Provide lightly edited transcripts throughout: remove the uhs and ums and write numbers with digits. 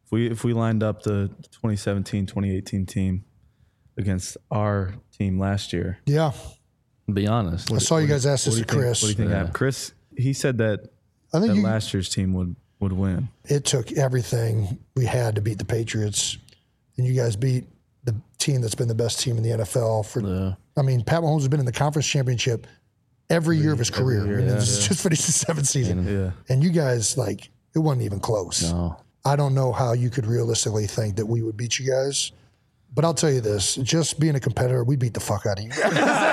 If we lined up the 2017-2018 team against our team last year. Yeah. Be honest. I saw you guys ask this to Chris. What do you think happened? Chris, he said that last year's team would win. It took everything we had to beat the Patriots, and you guys beat the team that's been the best team in the NFL for. I mean, Pat Mahomes has been in the conference championship every year of his career. This is just finished the seventh season, and you guys it wasn't even close. No. I don't know how you could realistically think that we would beat you guys. But I'll tell you this, just being a competitor, we beat the fuck out of you guys.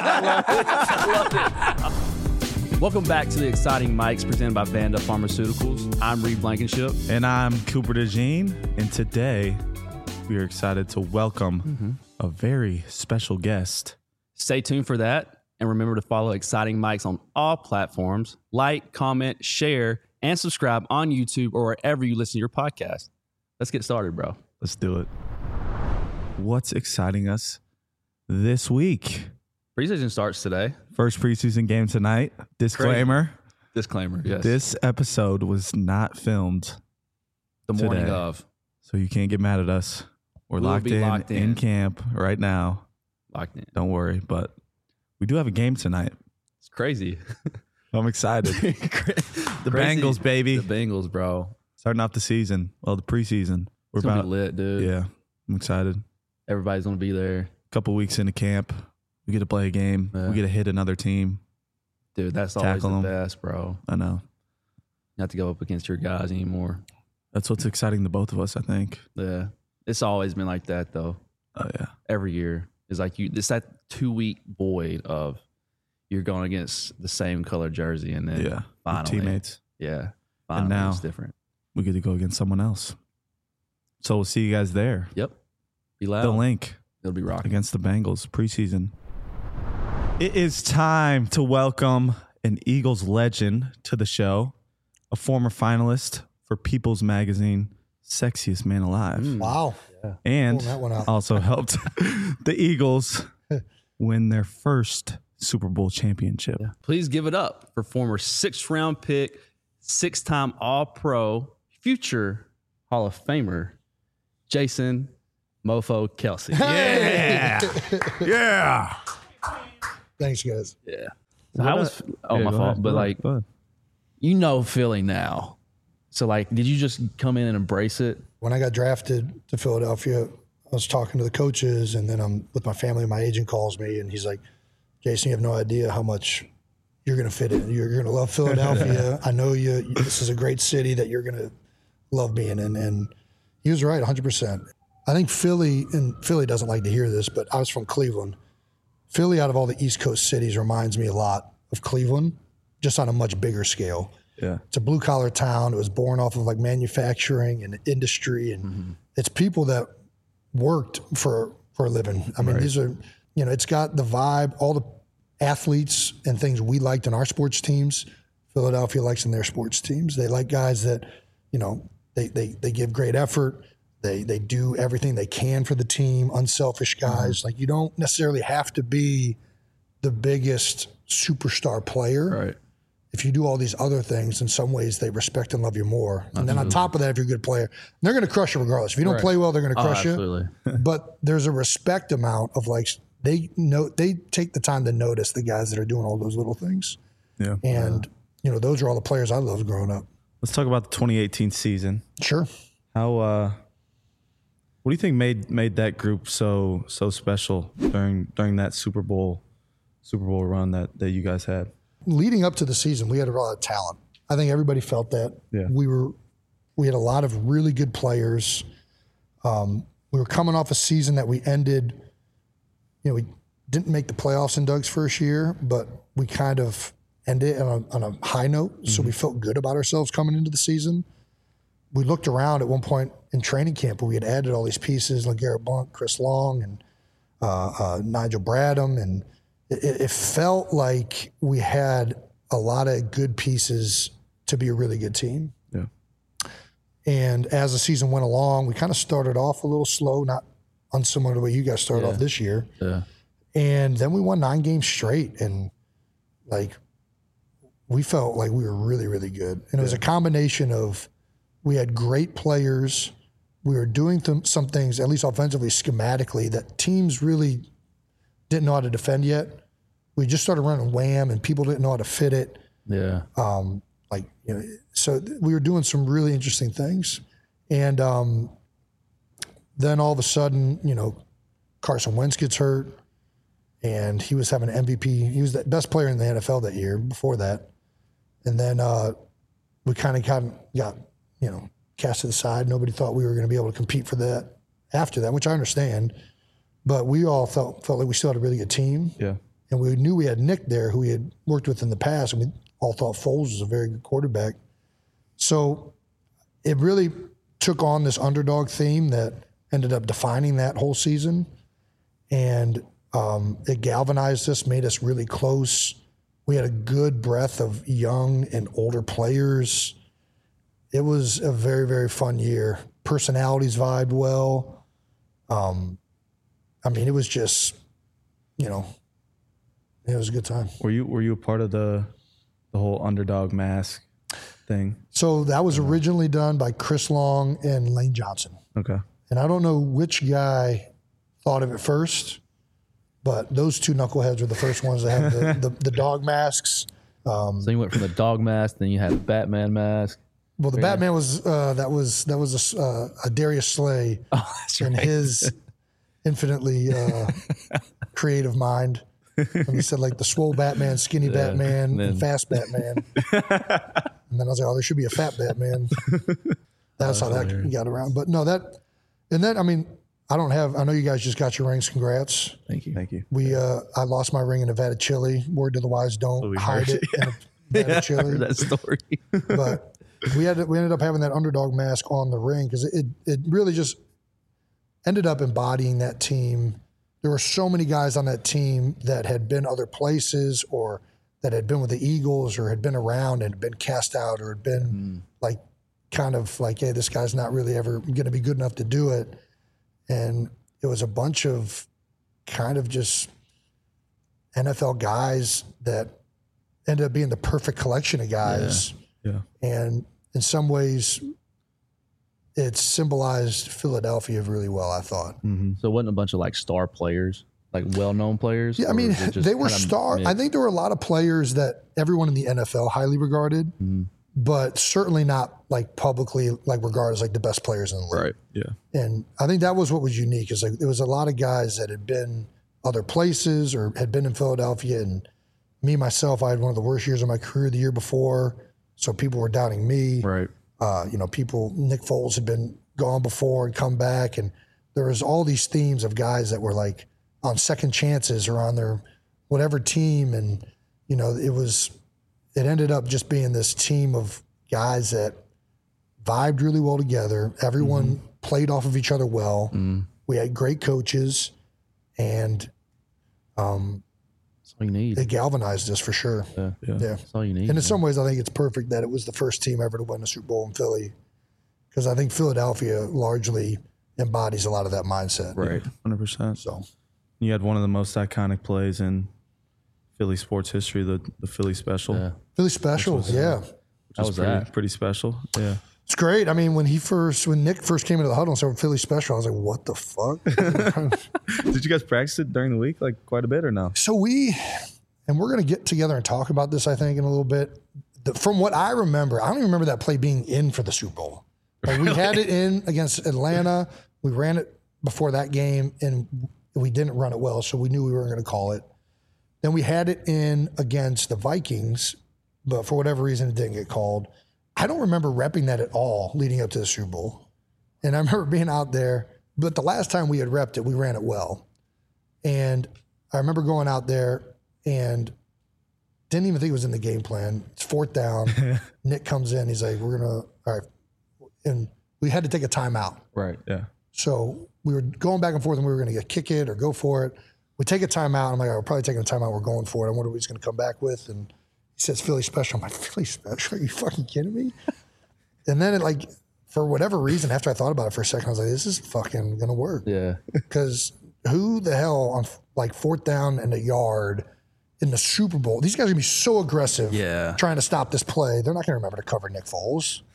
I love it. Welcome back to the Exciting Mics presented by Vanda Pharmaceuticals. I'm Reed Blankenship. And I'm Cooper DeJean. And today we are excited to welcome a very special guest. Stay tuned for that. And remember to follow Exciting Mics on all platforms. Like, comment, share, and subscribe on YouTube or wherever you listen to your podcast. Let's get started, bro. Let's do it. What's exciting us this week? Preseason starts today. First preseason game tonight. Disclaimer. Disclaimer, yes. This episode was not filmed the morning today, of. so you can't get mad at us. We're locked in camp right now. Locked in. Don't worry, but we do have a game tonight. It's crazy. I'm excited. The Bengals, baby. The Bengals, bro. Starting off the season. Well, the preseason. We're about lit, dude. Yeah, I'm excited. Everybody's going to be there. A couple weeks into camp. We get to play a game. Yeah. We get to hit another team. Dude, that's always the best, bro. I know. Not to go up against your guys anymore. That's what's exciting to both of us, I think. Yeah. It's always been like that, though. Oh, yeah. Every year. It's like it's that 2-week void of you're going against the same color jersey and then finally. Teammates. Yeah. Finally, and now it's different. We get to go against someone else. So we'll see you guys there. Yep. Be loud. The link. It'll be rocking. Against the Bengals preseason. It is time to welcome an Eagles legend to the show, a former finalist for People's Magazine Sexiest Man Alive. Wow. Yeah. And also helped the Eagles win their first Super Bowl championship. Yeah. Please give it up for former 6th-round pick, 6-time All-Pro, future Hall of Famer, Jason Mofo Kelce. Yeah. Yeah. Thanks, guys. Yeah. So my fault. But Philly now. So did you just come in and embrace it? When I got drafted to Philadelphia, I was talking to the coaches, and then I'm with my family. My agent calls me, and he's like, Jason, you have no idea how much you're going to fit in. You're going to love Philadelphia. I know you. This is a great city that you're going to love being in. And he was right, 100%. I think Philly doesn't like to hear this, but I was from Cleveland. Philly, out of all the East Coast cities, reminds me a lot of Cleveland, just on a much bigger scale. Yeah. It's a blue-collar town. It was born off of manufacturing and industry, and it's people that worked for a living. I mean, these are, it's got the vibe, all the athletes and things we liked in our sports teams, Philadelphia likes in their sports teams. They like guys that, they give great effort. They do everything they can for the team, unselfish guys. You don't necessarily have to be the biggest superstar player. Right. If you do all these other things, in some ways they respect and love you more. And then on top of that, if you're a good player, they're going to crush you regardless. If you don't play well, they're going to crush you. But there's a respect amount of they take the time to notice the guys that are doing all those little things. Yeah. And those are all the players I loved growing up. Let's talk about the 2018 season. Sure. How what do you think made that group so special during that Super Bowl run that you guys had? Leading up to the season, we had a lot of talent. I think everybody felt that. Yeah. We had a lot of really good players. We were coming off a season that we ended, we didn't make the playoffs in Doug's first year, but we kind of ended on a high note. So we felt good about ourselves coming into the season. We looked around at one point in training camp where we had added all these pieces, like Garrett Blunt, Chris Long, and Nigel Bradham, and it felt like we had a lot of good pieces to be a really good team. Yeah. And as the season went along, we kind of started off a little slow, not unsimilar to the way you guys started off this year. Yeah. And then we won 9 games straight, and we felt like we were really, really good. And it was a combination of we had great players we were doing some things, at least offensively, schematically, that teams really didn't know how to defend yet. We just started running wham, and people didn't know how to fit it. Yeah. So we were doing some really interesting things. And then all of a sudden, Carson Wentz gets hurt, and he was having an MVP. He was the best player in the NFL that year before that. And then we kind of got cast to the side. Nobody thought we were going to be able to compete for that after that, which I understand. But we all felt like we still had a really good team. Yeah. And we knew we had Nick there, who we had worked with in the past, and we all thought Foles was a very good quarterback. So it really took on this underdog theme that ended up defining that whole season. And it galvanized us, made us really close. We had a good breadth of young and older players. It was a very, very fun year. Personalities vibed well. It was just, it was a good time. Were you a part of the whole underdog mask thing? So that was originally done by Chris Long and Lane Johnson. Okay. And I don't know which guy thought of it first, but those two knuckleheads were the first ones to have the dog masks. So you went from the dog mask, then you had the Batman mask. Well, the Batman was that was a Darius Slay in his infinitely creative mind. And he said like the swole Batman, skinny Batman, and fast Batman. And then I was like, oh, there should be a fat Batman. That's how that got around. But no, I know you guys just got your rings. Congrats. Thank you. Thank you. I lost my ring in Nevada Chili. Word to the wise, don't hide it in Nevada Chili. That story. But we ended up having that underdog mask on the ring because it really just ended up embodying that team. There were so many guys on that team that had been other places or that had been with the Eagles or had been around and had been cast out or had been hey, this guy's not really ever going to be good enough to do it. And it was a bunch of kind of just NFL guys that ended up being the perfect collection of guys. Yeah. And in some ways, it symbolized Philadelphia really well, I thought. Mm-hmm. So it wasn't a bunch of star players, well-known players? Yeah, they were star. I think there were a lot of players that everyone in the NFL highly regarded, but certainly not publicly regarded as the best players in the league. Right. Yeah. And I think that was what was unique is there was a lot of guys that had been other places or had been in Philadelphia. And me, myself, I had one of the worst years of my career the year before. So people were doubting me. Right. Nick Foles had been gone before and come back. And there was all these themes of guys that were on second chances or on their whatever team. And, it ended up just being this team of guys that vibed really well together. Everyone played off of each other well. We had great coaches, and That's all you need. it galvanized us for sure. Yeah. That's all you need. And in some ways, I think it's perfect that it was the first team ever to win a Super Bowl in Philly, because I think Philadelphia largely embodies a lot of that mindset. Right. 100%. So You had one of the most iconic plays in Philly sports history, the Philly special. Yeah. Philly special, yeah. Which How is was pretty special. Yeah. It's great. I mean, when Nick first came into the huddle and started Philly special, I was like, what the fuck? Did you guys practice it during the week quite a bit or no? So we're going to get together and talk about this, I think, in a little bit. From what I remember, I don't even remember that play being in for the Super Bowl. We had it in against Atlanta. We ran it before that game, and we didn't run it well, so we knew we weren't going to call it. Then we had it in against the Vikings, but for whatever reason, it didn't get called. I don't remember repping that at all leading up to the Super Bowl. And I remember being out there, but the last time we had repped it, we ran it well. And I remember going out there and didn't even think it was in the game plan. It's fourth down. Nick comes in. He's like, all right. And we had to take a timeout. Right. Yeah. So we were going back and forth and we were going to kick it or go for it. We take a timeout. I'm like, we're probably taking a timeout. We're going for it. I wonder what he's going to come back with. And he says, Philly special. I'm like, Philly special? Are you fucking kidding me? And then for whatever reason, after I thought about it for a second, I was like, this is fucking going to work. Yeah. Because who the hell on fourth down and a yard in the Super Bowl, these guys are going to be so aggressive Yeah. trying to stop this play. They're not going to remember to cover Nick Foles.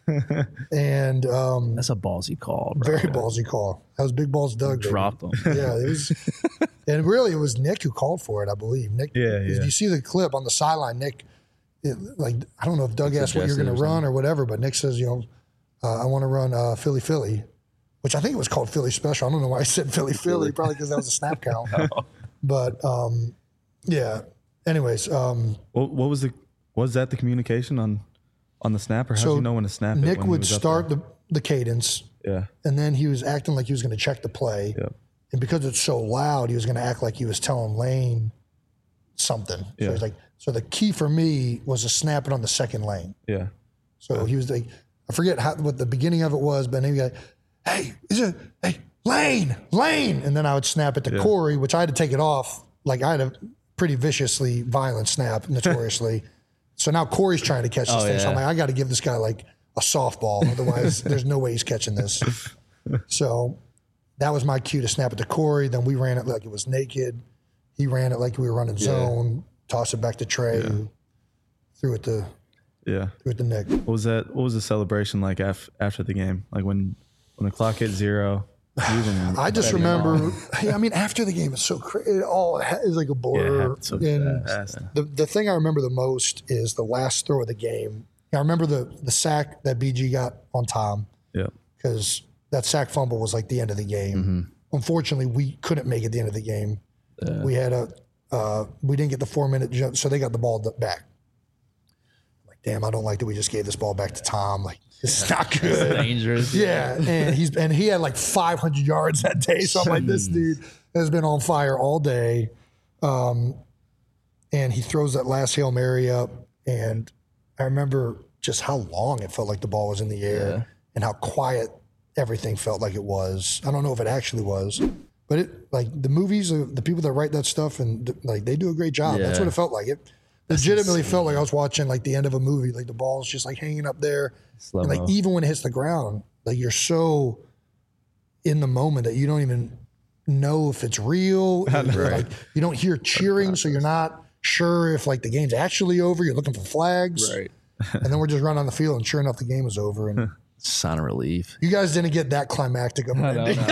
And That's a ballsy call, bro. very ballsy call. That was Big Balls Doug. baby. Dropped him. Yeah, it was, and really it was Nick who called for it, I believe. Nick, if you see the clip on the sideline, Nick, I don't know if Doug asked what you're going to run or whatever, but Nick says, I want to run Philly Philly, which I think it was called Philly Special. I don't know why I said Philly Philly, probably because that was a snap count. But yeah. Anyways, what was that the communication on the snap, or how do you know when to snap it? Nick when would start the cadence. Yeah. And then he was acting like he was going to check the play. Yep. And because it's so loud, he was going to act like he was telling Lane something. So Yeah. he's like, so the key for me was to snap it on the second lane. Yeah. So he was like, I forget what the beginning of it was, but then he was like, hey, Lane. And then I would snap it to Corey, which I had to take it off. Like I had a pretty viciously violent snap, notoriously. So now Corey's trying to catch this thing. So I'm like, I got to give this guy like a softball. Otherwise, there's no way he's catching this. So that was my cue to snap it to Corey. Then we ran it like it was naked. He ran it like we were running zone, tossed it back to Trey, who threw it to Nick. What was the celebration like after the game? Like when the clock hit 0? I just remember, after the game, it's so crazy. It all is like a blur. So and fast. the thing I remember the most is the last throw of the game. I remember the sack that BG got on Tom. Yeah. Because that sack fumble was like the end of the game. Unfortunately, we couldn't make it the end of the game. We had we didn't get the 4-minute jump, so they got the ball back. I'm like, damn, I don't like that we just gave this ball back to Tom. Like, this is not good. It's dangerous. Yeah, and he had like 500 yards that day. So I'm like, this dude has been on fire all day. And he throws that last Hail Mary up, and I remember just how long it felt like the ball was in the air and how quiet everything felt like it was. I don't know if it actually was, but it like the movies, the people that write that stuff, and like they do a great job. That's what it felt like. It legitimately felt like I was watching like the end of a movie. Like the ball's just like hanging up there. And like even when it hits the ground, like you're so in the moment that you don't even know if it's real. Like you don't hear cheering, so you're not sure if like the game's actually over. You're looking for flags, Right. And then we're just running on the field, and sure enough, the game was over. And Sign of relief. you guys didn't get that climactic of an ending.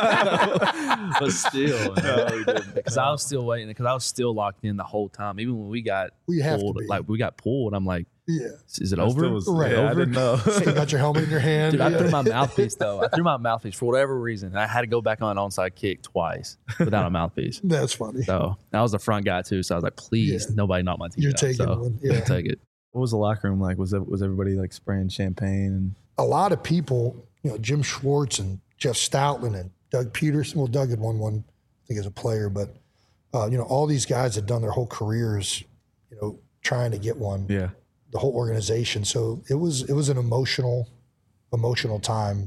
But still, because I was still waiting, because I was still locked in the whole time. Even when we got have to pulled, be. like we got pulled, I'm like, Yeah, is it over? Right, I didn't know. so you got your helmet in your hand. Dude, I threw my mouthpiece though. I threw my mouthpiece for whatever reason. I had to go back on an onside kick twice without a mouthpiece. That's funny. So I was the front guy too. So I was like, please, nobody knock my teeth You're out. taking so one. Yeah. take it. What was the locker room like? Was everybody like spraying champagne? And A lot of people, Jim Schwartz and Jeff Stoutland and Doug Peterson. Well, Doug had won one, I think, as a player, but all these guys had done their whole careers, trying to get one. yeah, The whole organization. So it was an emotional time.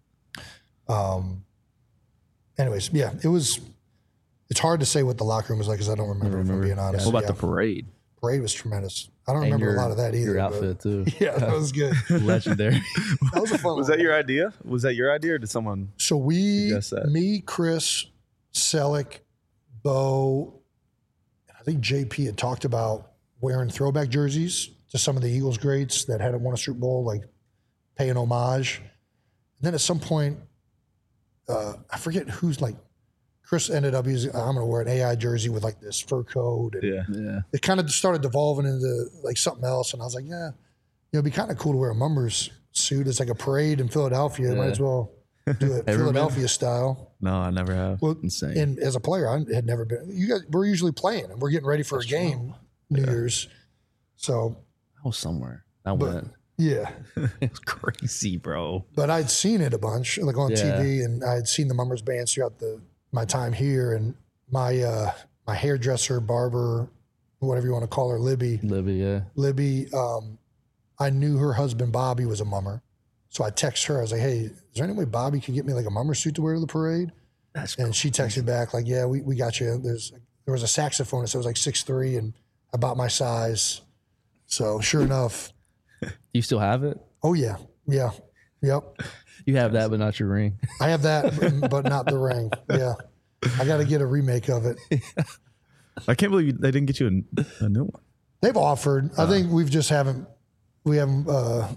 Anyways, yeah, it's hard to say what the locker room was like because I don't remember, if I'm being honest. What about the parade? parade was tremendous. I don't remember a lot of that either. Your outfit too. Yeah, that was good. Legendary. That was a fun Was one. that your idea? Was that your idea, or did someone? So we, Suggest that. me, Chris, Selleck, Bo, and I think JP had talked about wearing throwback jerseys to some of the Eagles greats that hadn't won a Super Bowl, like paying homage. And then at some point, I forget who's like, Chris ended up using, I'm going to wear an AI jersey with like this fur coat. And Yeah. Yeah. it kind of started devolving into like something else. And I was like, yeah, it'd be kind of cool to wear a Mummers suit. It's like a parade in Philadelphia. Might as well do it Philadelphia style. No, I never have. Well, Insane. and as a player, I had never been. You guys, we're usually playing, and we're getting ready for a game, New Year's. So I was somewhere. I went. yeah, It was crazy, bro. but I'd seen it a bunch, like on TV, and I had seen the Mummers bands throughout my time here, and my my hairdresser, barber, whatever you want to call her, Libby. Libby, I knew her husband Bobby was a Mummer, so I texted her. I was like, "Hey, is there any way Bobby could get me like a Mummer suit to wear to the parade?" And she texted back like, "Yeah, we got you." There was a saxophonist that was like 6'3" and about my size. So sure enough, You still have it? oh yeah, yep. You have that, but not your ring. I have that, but not the ring. Yeah, I got to get a remake of it. I can't believe they didn't get you a new one. They've offered. I think we haven't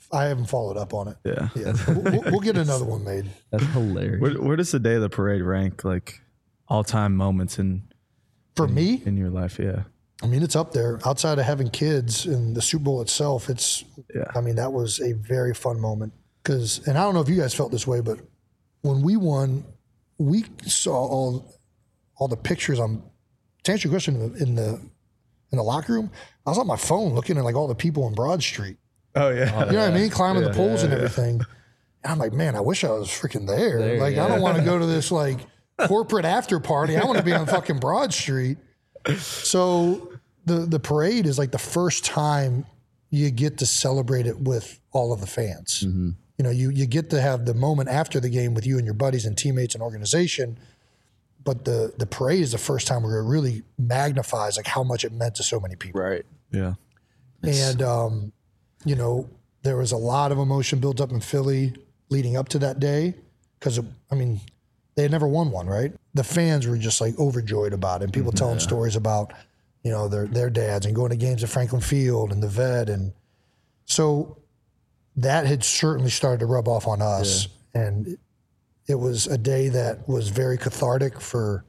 I haven't followed up on it. Yeah. We'll get another one made. That's hilarious. Where does the day of the parade rank, like all-time moments For me, in your life? Yeah. I mean, it's up there. Outside of having kids and the Super Bowl itself, I mean, that was a very fun moment. And I don't know if you guys felt this way, but when we won, we saw all the pictures to answer your question, in the locker room, I was on my phone looking at like all the people on Broad Street. Oh yeah. You know what I mean? Climbing the poles and everything. And I'm like, man, I wish I was freaking there. Like, I don't want to go to this like corporate after party. I want to be on fucking Broad Street. So the parade is like the first time you get to celebrate it with all of the fans. Mm-hmm. You know, you get to have the moment after the game with you and your buddies and teammates and organization. But the parade is the first time where it really magnifies like how much it meant to so many people. Right. Yeah. And, you know, there was a lot of emotion built up in Philly leading up to that day. Because, I mean, they had never won one, right? The fans were just like overjoyed about it. And people telling stories about, you know, their dads and going to games at Franklin Field and the Vet. And so that had certainly started to rub off on us. Yeah. And it was a day that was very cathartic for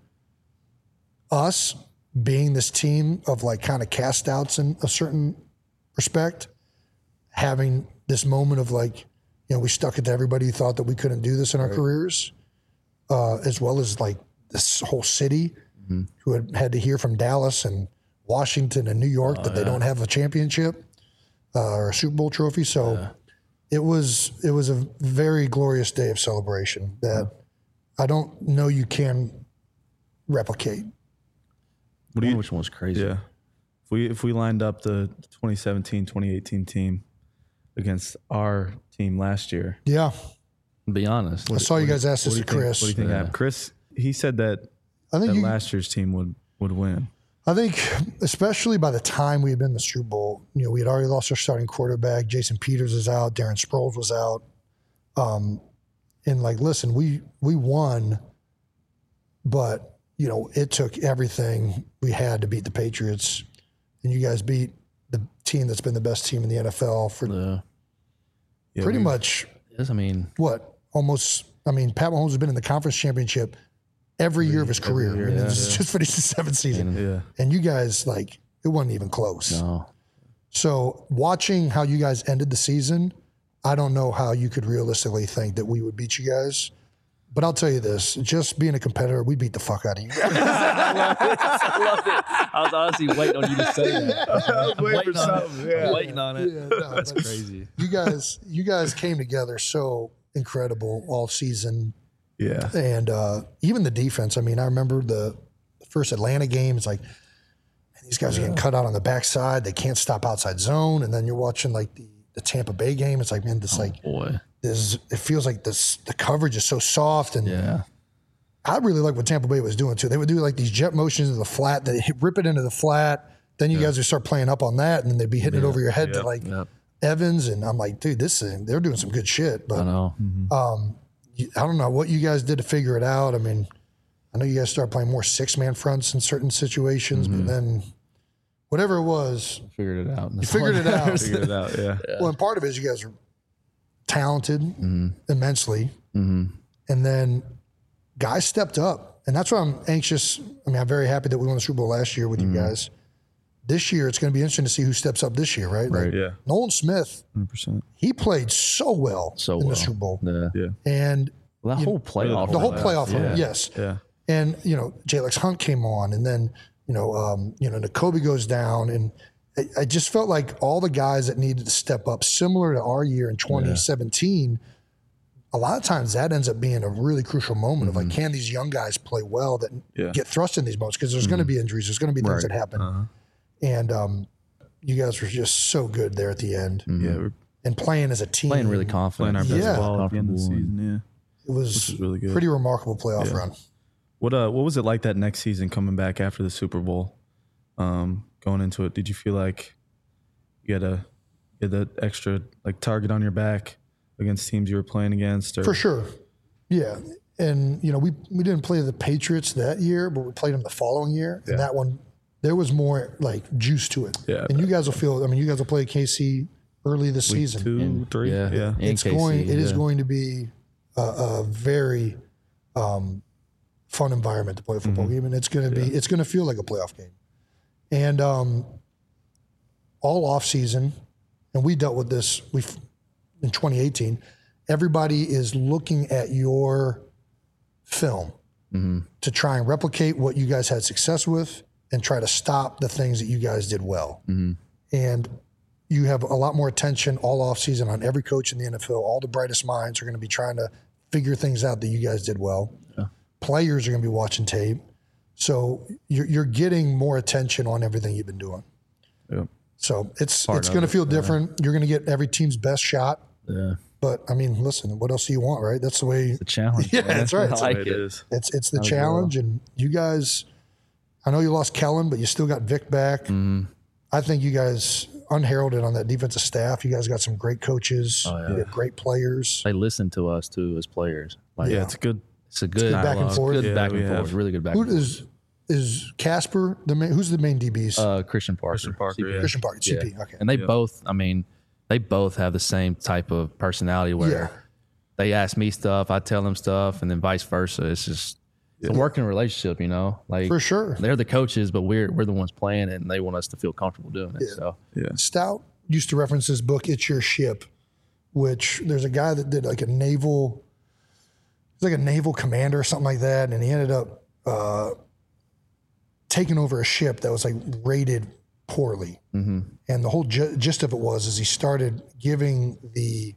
us, being this team of like kind of cast outs in a certain respect, having this moment of like, you know, we stuck it to everybody who thought that we couldn't do this in our careers, as well as like this whole city who had to hear from Dallas and Washington and New York that they don't have a championship or a Super Bowl trophy. So it was a very glorious day of celebration that I don't know you can replicate. Which one was crazy? Yeah. If we lined up the 2017-2018 team against our team last year. Yeah. Be honest. I saw you guys ask this to Chris. What do you think happened? Chris, he said that last year's team would win. I think, especially by the time we had been in the Super Bowl, you know, we had already lost our starting quarterback. Jason Peters was out. Darren Sproles was out. And like, listen, we won, but, you know, it took everything we had to beat the Patriots. And you guys beat the team that's been the best team in the NFL for pretty much. Yes, I mean, what? Almost. I mean, Pat Mahomes has been in the conference championship every year of his career. Year, I mean, just finished the seventh season. Yeah. And you guys, like, it wasn't even close. no. So watching how you guys ended the season, I don't know how you could realistically think that we would beat you guys. But I'll tell you this, just being a competitor, we beat the fuck out of you guys. I loved it. I was honestly waiting on you to say that. I was waiting for something. Yeah. Waiting on it. Yeah, no, That's crazy. You guys came together so incredible all season. Yeah. And even the defense. I mean, I remember the first Atlanta game. It's like, man, these guys are getting cut out on the backside. They can't stop outside zone. And then you're watching like the Tampa Bay game. It's like, man, this it feels like the coverage is so soft. And I really like what Tampa Bay was doing too. They would do like these jet motions into the flat. They rip it into the flat. Then you guys would start playing up on that, and then they'd be hitting it over your head to like Evans. And I'm like, dude, they're doing some good shit. But I know. I don't know what you guys did to figure it out. I mean, I know you guys started playing more 6-man fronts in certain situations, but then whatever it was, Figured it out. you figured it out. Figured it out. Yeah. Well, and part of it is you guys are talented immensely. And then guys stepped up. And that's why I'm anxious. I mean, I'm very happy that we won the Super Bowl last year with you guys. This year, it's going to be interesting to see who steps up this year, right? Right. Like, Nolan Smith, 100%. he played so well in the Super Bowl. Yeah. And Well, that whole playoff. the whole playoff run, yes. Yeah. And, you know, Jalex Hunt came on, and then, Nakobe goes down. And I just felt like all the guys that needed to step up, similar to our year in 2017, a lot of times that ends up being a really crucial moment of like, can these young guys play well that get thrust in these moments? Because there's going to be injuries. There's going to be things that happen. And you guys were just so good there at the end. Yeah. We're And playing as a team. Playing really confident. playing our best Yeah. ball at the end of the season. Yeah. It was Which is really good. pretty remarkable playoff run. What was it like that next season coming back after the Super Bowl? Going into it, did you feel like you had that extra like target on your back against teams you were playing against? Or? For sure. Yeah. And, we didn't play the Patriots that year, but we played them the following year. And that one, there was more like juice to it. Yeah, And you guys will feel, you guys will play KC early this season. 2, 3. Yeah. In KC, It is going to be a very fun environment to play a football game, and it's going to feel like a playoff game. And all off season, and we dealt with this in 2018. Everybody is looking at your film to try and replicate what you guys had success with, and try to stop the things that you guys did well. And you have a lot more attention all off season on every coach in the NFL. All the brightest minds are going to be trying to figure things out that you guys did well. Yeah. Players are going to be watching tape. So you're getting more attention on everything you've been doing. Yeah. So it's going to feel different. You're going to get every team's best shot. Yeah. But I mean, listen, what else do you want, right? That's the way. It's the challenge. Yeah, that's right. I like it. It's the challenge, and you guys. I know you lost Kellen, but you still got Vic back. I think you guys unheralded on that defensive staff. You guys got some great coaches. You got great players. They listen to us too as players. It's good. It's a good back and forth. Good back and forth. Really good back and forth. Is Casper the main? Who's the main DBs? Christian Parker. Christian Parker. CP. Christian Parker. CP. Okay. And they both. I mean, they both have the same type of personality where they ask me stuff, I tell them stuff, and then vice versa. It's just. It's a working relationship, you know. Like for sure, they're the coaches, but we're the ones playing it, and they want us to feel comfortable doing it. So Stout used to reference this book, "It's Your Ship," which there's a guy that did like a naval commander or something like that, and he ended up taking over a ship that was like rated poorly, and the whole gist of it is he started giving the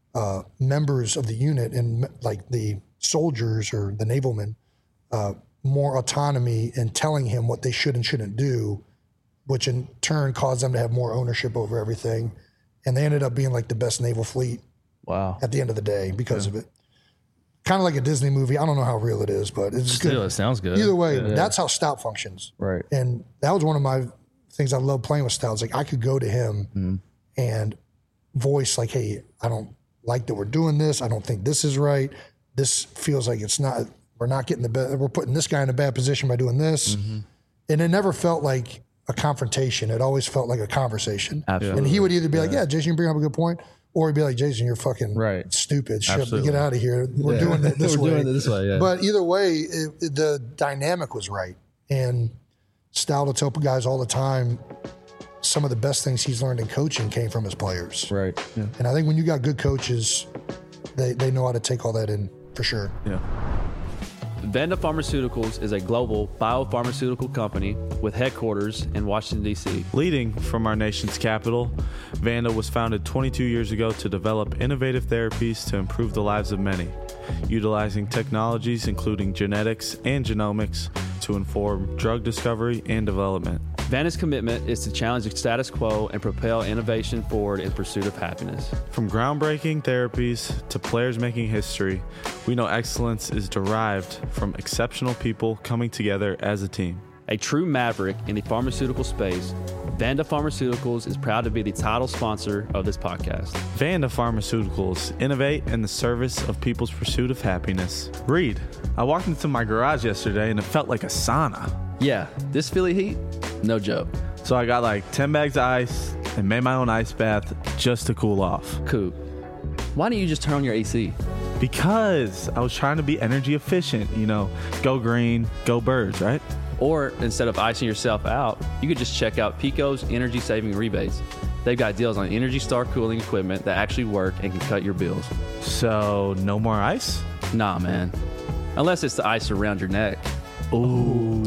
members of the unit and like the soldiers or the navalmen. More autonomy and telling him what they should and shouldn't do, which in turn caused them to have more ownership over everything. And they ended up being like the best naval fleet at the end of the day because of it. Kind of like a Disney movie. I don't know how real it is, but it's still, good. It sounds good. Either way, that's how Stout functions. Right. And that was one of my things I love playing with Stout. It's like I could go to him and voice like, hey, I don't like that we're doing this. I don't think this is right. This feels like it's not... We're not getting we're putting this guy in a bad position by doing this. And it never felt like a confrontation. It always felt like a conversation. Absolutely. And he would either be like, yeah, Jason, you bring up a good point. Or he'd be like, Jason, you're fucking stupid. Shit, get out of here. We're doing it this way. Doing it this way. But either way, the dynamic was right. And Stout will tell guys all the time, some of the best things he's learned in coaching came from his players. Right. Yeah. And I think when you got good coaches, they know how to take all that in for sure. Yeah. Vanda Pharmaceuticals is a global biopharmaceutical company with headquarters in Washington, D.C. Leading from our nation's capital, Vanda was founded 22 years ago to develop innovative therapies to improve the lives of many, utilizing technologies including genetics and genomics to inform drug discovery and development. Vanda's commitment is to challenge the status quo and propel innovation forward in pursuit of happiness. From groundbreaking therapies to players making history, we know excellence is derived from exceptional people coming together as a team. A true maverick in the pharmaceutical space, Vanda Pharmaceuticals is proud to be the title sponsor of this podcast. Vanda Pharmaceuticals innovate in the service of people's pursuit of happiness. Reed, I walked into my garage yesterday and it felt like a sauna. Yeah, this Philly heat, no joke. So I got like 10 bags of ice and made my own ice bath just to cool off. Cool. Why don't you just turn on your AC? Because I was trying to be energy efficient, go green, go birds, right? Or instead of icing yourself out, you could just check out Pico's energy saving rebates. They've got deals on Energy Star cooling equipment that actually work and can cut your bills. So no more ice? Nah, man. Unless it's the ice around your neck. Ooh,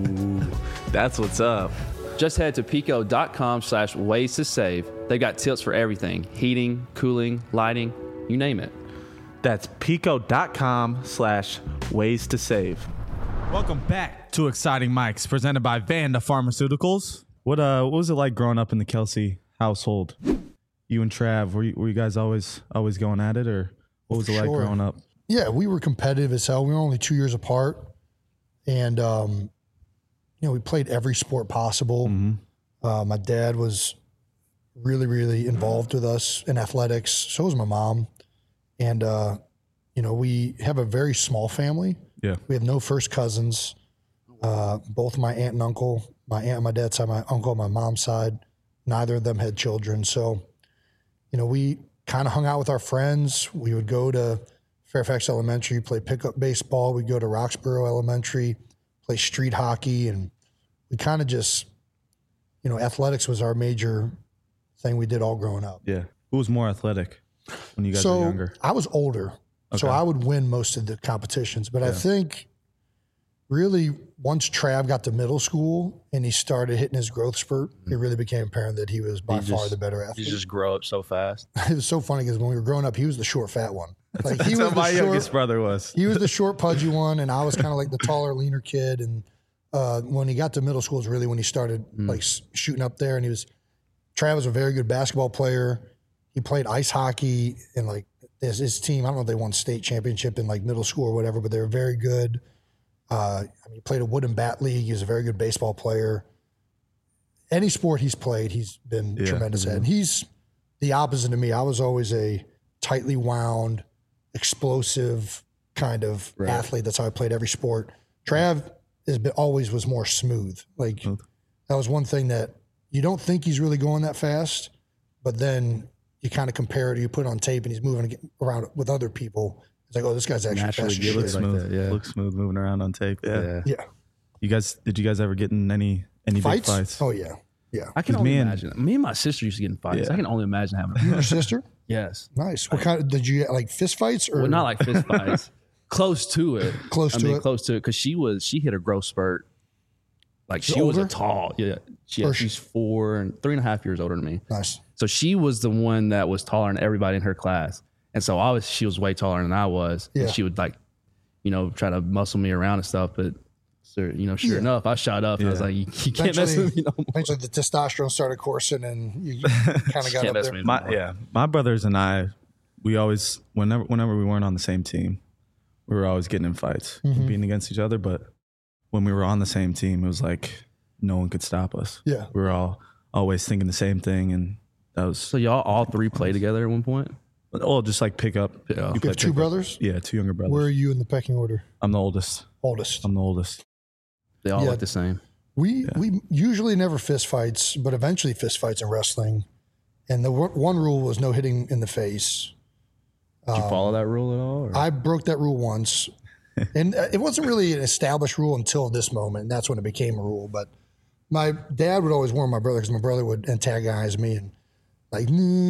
that's what's up. Just head to pico.com/ways to save. They've got tips for everything: heating, cooling, lighting, you name it. That's pico.com/ways to save. Welcome back to Exciting Mics, presented by Vanda Pharmaceuticals. What was it like growing up in the Kelsey household? You and Trav, were you guys always going at it, or what was it like growing up? Yeah, we were competitive as hell. We were only 2 years apart, and we played every sport possible. My dad was really, really involved with us in athletics. So was my mom, and we have a very small family. Yeah, we have no first cousins. Both my aunt and uncle, my aunt on my dad's side, my uncle on my mom's side, neither of them had children. So we kind of hung out with our friends. We would go to Fairfax Elementary, play pickup baseball. We'd go to Roxborough Elementary, play street hockey. And we kind of just, athletics was our major thing we did all growing up. Yeah. Who was more athletic when you guys were younger? I was older, so I would win most of the competitions. But I think really once Trav got to middle school and he started hitting his growth spurt, it really became apparent that he was by far the better athlete. You just grow up so fast. It was so funny because when we were growing up, he was the short, fat one. Like he That's was how my youngest brother was. He was the short, pudgy one, and I was kind of like the taller, leaner kid. And when he got to middle school is really when he started like shooting up there. And Trav was a very good basketball player. He played ice hockey and like his team. I don't know if they won state championship in like middle school or whatever, but they were very good. He played a wood and bat league. He was a very good baseball player. Any sport he's played, he's been tremendous at. And he's the opposite of me. I was always a tightly wound, explosive kind of athlete. That's how I played every sport. Trav always was more smooth. Like that was one thing that you don't think he's really going that fast, but then you kind of compare it, you put it on tape and he's moving around with other people. It's like, oh, this guy's actually fast as shit. Looks smooth. Like that, Looks smooth moving around on tape. Yeah. Yeah. Did you guys ever get in any big fights? Oh yeah. Yeah. I can only imagine. Me and my sister used to get in fights. Yeah. I can only imagine having Your sister? Yes. Nice. What kind of, did you get like fist fights or? Well, not like fist fights. Close to it. Close to it. Close to it. Because she hit a growth spurt. Like she was a tall. Yeah. She's 3.5 years older than me. Nice. So she was the one that was taller than everybody in her class. And so she was way taller than I was. Yeah. And she would like, try to muscle me around and stuff. But sure enough, I shot up and I was like, you can't mess with me no more. Eventually the testosterone started coursing and you kind of got up there. My brothers and I, we always, whenever we weren't on the same team, we were always getting in fights, competing against each other. But when we were on the same team, it was like no one could stop us. Yeah. We were all always thinking the same thing. And that was. So y'all all three play together at one point? Oh, just like pick up. Yeah. You have two brothers? Yeah, two younger brothers. Where are you in the pecking order? I'm the oldest. Oldest. They all look the same. We usually never fist fights, but eventually fist fights in wrestling. And the one rule was no hitting in the face. Did you follow that rule at all? Or? I broke that rule once. And it wasn't really an established rule until this moment. And that's when it became a rule. But my dad would always warn my brother because my brother would antagonize me and like,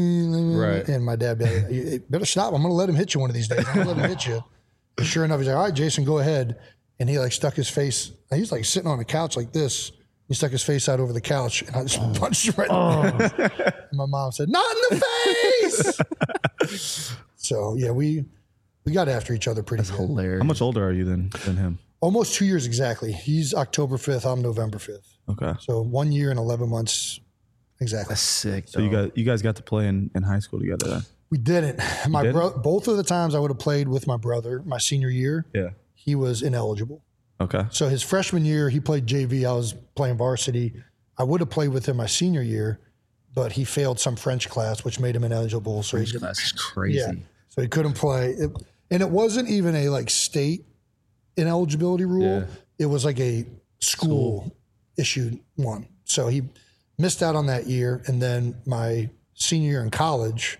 right. And my dad would be like, you better stop. I'm going to let him hit you one of these days. I'm going to let him hit you. And sure enough, he's like, all right, Jason, go ahead. And he like stuck his face. He was like sitting on the couch like this. He stuck his face out over the couch, and I just punched him right in the face. And my mom said, "Not in the face." So yeah, we got after each other pretty good. Hilarious. How much older are you than him? Almost 2 years exactly. He's October 5th. I'm November 5th. Okay. So 1 year and 11 months exactly. That's sick. So you guys got to play in high school together then? We didn't. Both of the times I would have played with my brother, my senior year, he was ineligible. Okay. So his freshman year, he played JV. I was playing varsity. I would have played with him my senior year, but he failed some French class, which made him ineligible. So French class is crazy. Yeah. So he couldn't play. And it wasn't even a like state ineligibility rule. Yeah. It was like a school issued one. So he missed out on that year. And then my senior year in college,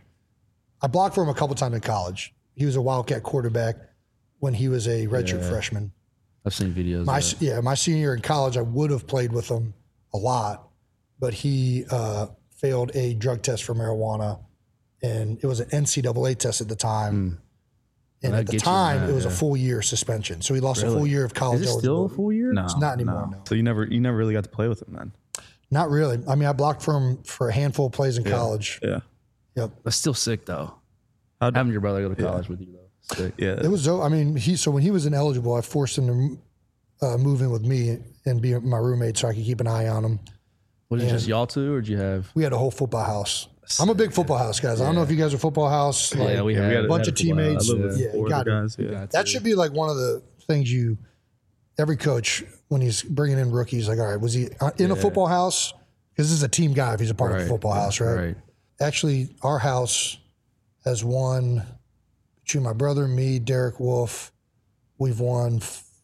I blocked for him a couple times in college. He was a Wildcat quarterback when he was a redshirt freshman. I've seen videos. My senior year in college, I would have played with him a lot, but he failed a drug test for marijuana, and it was an NCAA test at the time. And at the time, it was a full year suspension. So he lost a full year of college. Is it still a full year? No, it's not anymore. No. So you never really got to play with him then? Not really. I mean, I blocked for him for a handful of plays in college. Yeah. Yep. That's still sick though. Having your brother go to college with you though. Sick. Yeah. It was. I mean, when he was ineligible, I forced him to move in with me and be my roommate so I could keep an eye on him. Was it just y'all two, or did you have? We had a whole football house. I'm a big football house, guys. I don't know if you guys are football house. Like, we had a bunch of teammates. You got guys. Yeah. That should be like one of the things every coach, when he's bringing in rookies, like, all right, was he in a football house? Because this is a team guy if he's a part of a football house, right? Actually, our house has won, between my brother and me, Derek Wolf, we've won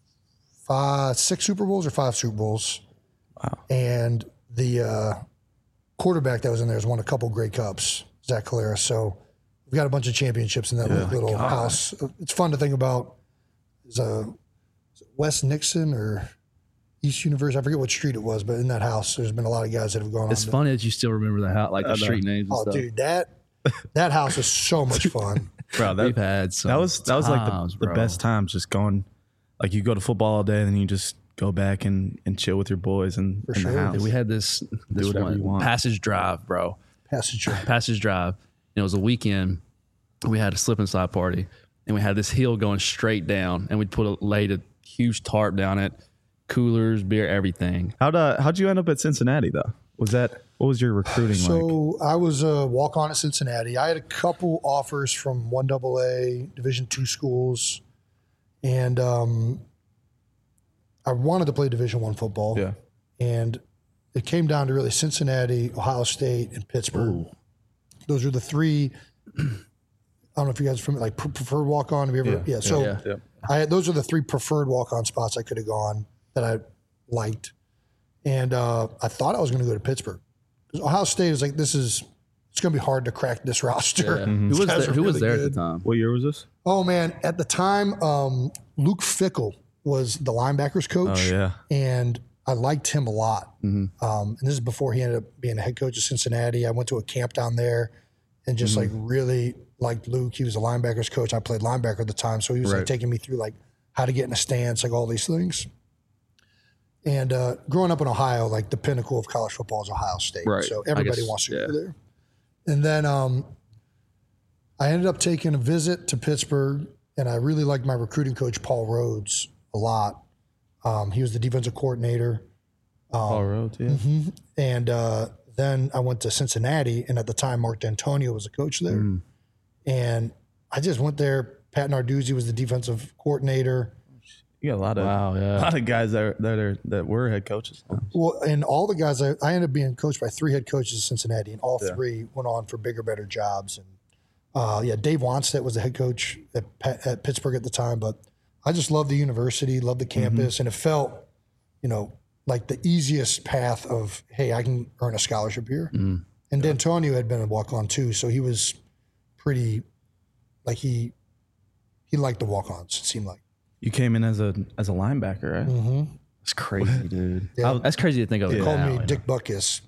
6 Super Bowls or 5 Super Bowls. Wow. And the quarterback that was in there has won a couple Grey Cups. Zach Collaros. So we've got a bunch of championships in that little house. It's fun to think about. Is it West Nixon or East University? I forget what street it was, but in that house, there's been a lot of guys that have gone It's on. funny that you still remember the house, like the street names and Oh, stuff. dude, that house is so much fun. Bro, We've had some that was like times, the bro. best times, just going, like you go to football all day and then you just go back and chill with your boys in sure. the house. Dude, we had this whatever you one want. Passage Drive, bro. Passage. Passage Drive. And it was a weekend. We had a slip and slide party, and we had this hill going straight down, and we laid a huge tarp down it, coolers, beer, everything. How'd you end up at Cincinnati though? What was your recruiting like? So I was a walk-on at Cincinnati. I had a couple offers from 1AA, Division II schools, and I wanted to play Division I football. Yeah. And it came down to really Cincinnati, Ohio State, and Pittsburgh. Those are the three. I don't know if you guys are familiar, like preferred walk-on. Have you ever? Yeah. So those are the three preferred walk-on spots I could have gone that I liked. And I thought I was going to go to Pittsburgh. Because Ohio State is like, it's going to be hard to crack this roster. Who was guys there, are who was really there at good. the time? What year was this? Oh, man. At the time, Luke Fickle was the linebackers coach. Oh yeah. And I liked him a lot. And this is before he ended up being a head coach of Cincinnati. I went to a camp down there and just like really liked Luke. He was a linebackers coach. I played linebacker at the time. So he was like taking me through like how to get in a stance, like all these things. And growing up in Ohio, like the pinnacle of college football is Ohio State. Right. So everybody wants to go there. And then I ended up taking a visit to Pittsburgh, and I really liked my recruiting coach, Paul Rhodes, a lot. He was the defensive coordinator. Paul Rhodes, yeah. And then I went to Cincinnati, and at the time, Mark D'Antonio was the coach there. And I just went there. Pat Narduzzi was the defensive coordinator. You got a lot of yeah. a lot of guys that were head coaches. Well, and all the guys, I ended up being coached by three head coaches in Cincinnati, and all three went on for bigger, better jobs. And Dave Wanstead was the head coach at Pittsburgh at the time. But I just loved the university, loved the campus, and it felt, like the easiest path of, hey, I can earn a scholarship here. And D'Antonio had been a walk-on too, so he was pretty, like he liked the walk-ons, it seemed like. You came in as a linebacker, right? That's crazy, dude. Yeah. That's crazy to think of. They now, called me you know? Dick Buckus.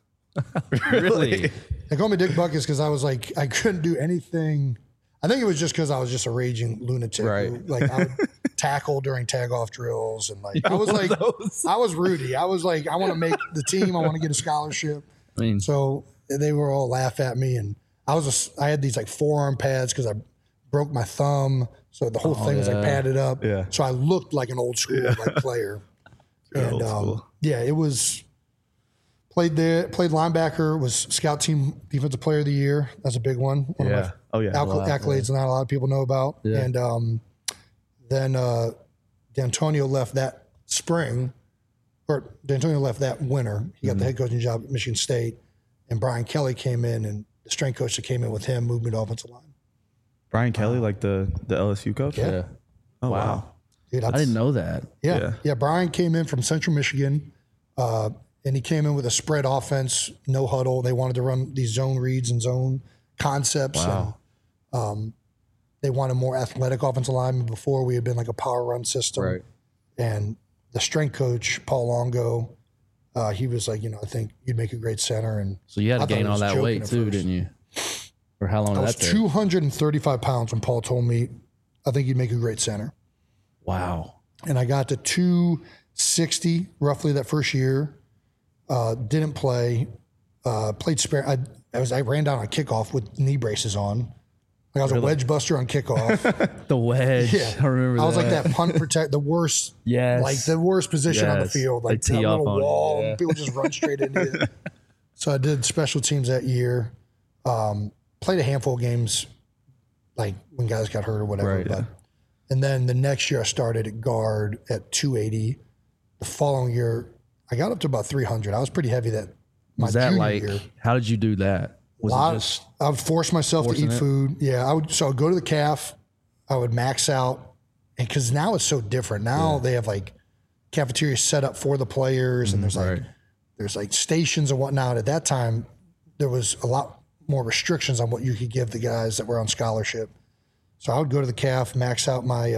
Really? They called me Dick Buckus because I was like, I couldn't do anything. I think it was just because I was just a raging lunatic. Right. Like I would tackle during tag-off drills, and like I was like, I was Rudy. I was like, I want to make the team. I want to get a scholarship. I mean, So they were all laugh at me, and I had these like forearm pads because I broke my thumb, so the whole thing was like padded up. Yeah. So I looked like an old school like player. And old school. it was played linebacker, was scout team defensive player of the year. That's a big one. One of my Oh yeah. accolades not a lot of people know about. Yeah. And then D'Antonio left that spring, or D'Antonio left that winter. He got the head coaching job at Michigan State, and Brian Kelly came in, and the strength coach that came in with him moved me to offensive line. Brian Kelly, like the LSU coach. Yeah. Oh wow. Dude, I didn't know that. Yeah. Brian came in from Central Michigan, and he came in with a spread offense, no huddle. They wanted to run these zone reads and zone concepts. Wow. And, they wanted more athletic offensive linemen. Before we had been like a power run system. Right. And the strength coach, Paul Longo, he was like, I think you'd make a great center. And So you had I to thought gain he all was that joking weight at too, first. didn't you? Or how long I did was that take? 235 pounds when Paul told me, I think you'd make a great center. Wow. And I got to 260 roughly that first year. Didn't play. Played spare. I ran down on kickoff with knee braces on. Like I was a wedge buster on kickoff. The wedge. Yeah, I remember I was like that punt protect, the worst. Yes. Like the worst position on the Yes. field. They Like that tee off little on it, wall, yeah. and people just run straight into it. So I did special teams that year. Played a handful of games, like when guys got hurt or whatever. Right, But, and then the next year I started at guard at 280. The following year I got up to about 300. I was pretty heavy that my Was that junior like, year. how did you do that? Was it just, I would force myself to forcing eat it? food. Yeah, I would. So I would go to the calf. I would max out, and because now it's so different. Now they have like cafeterias set up for the players, and there's like right. there's like stations and whatnot. At that time, there was a lot more restrictions on what you could give the guys that were on scholarship. So I would go to the CAF, max out my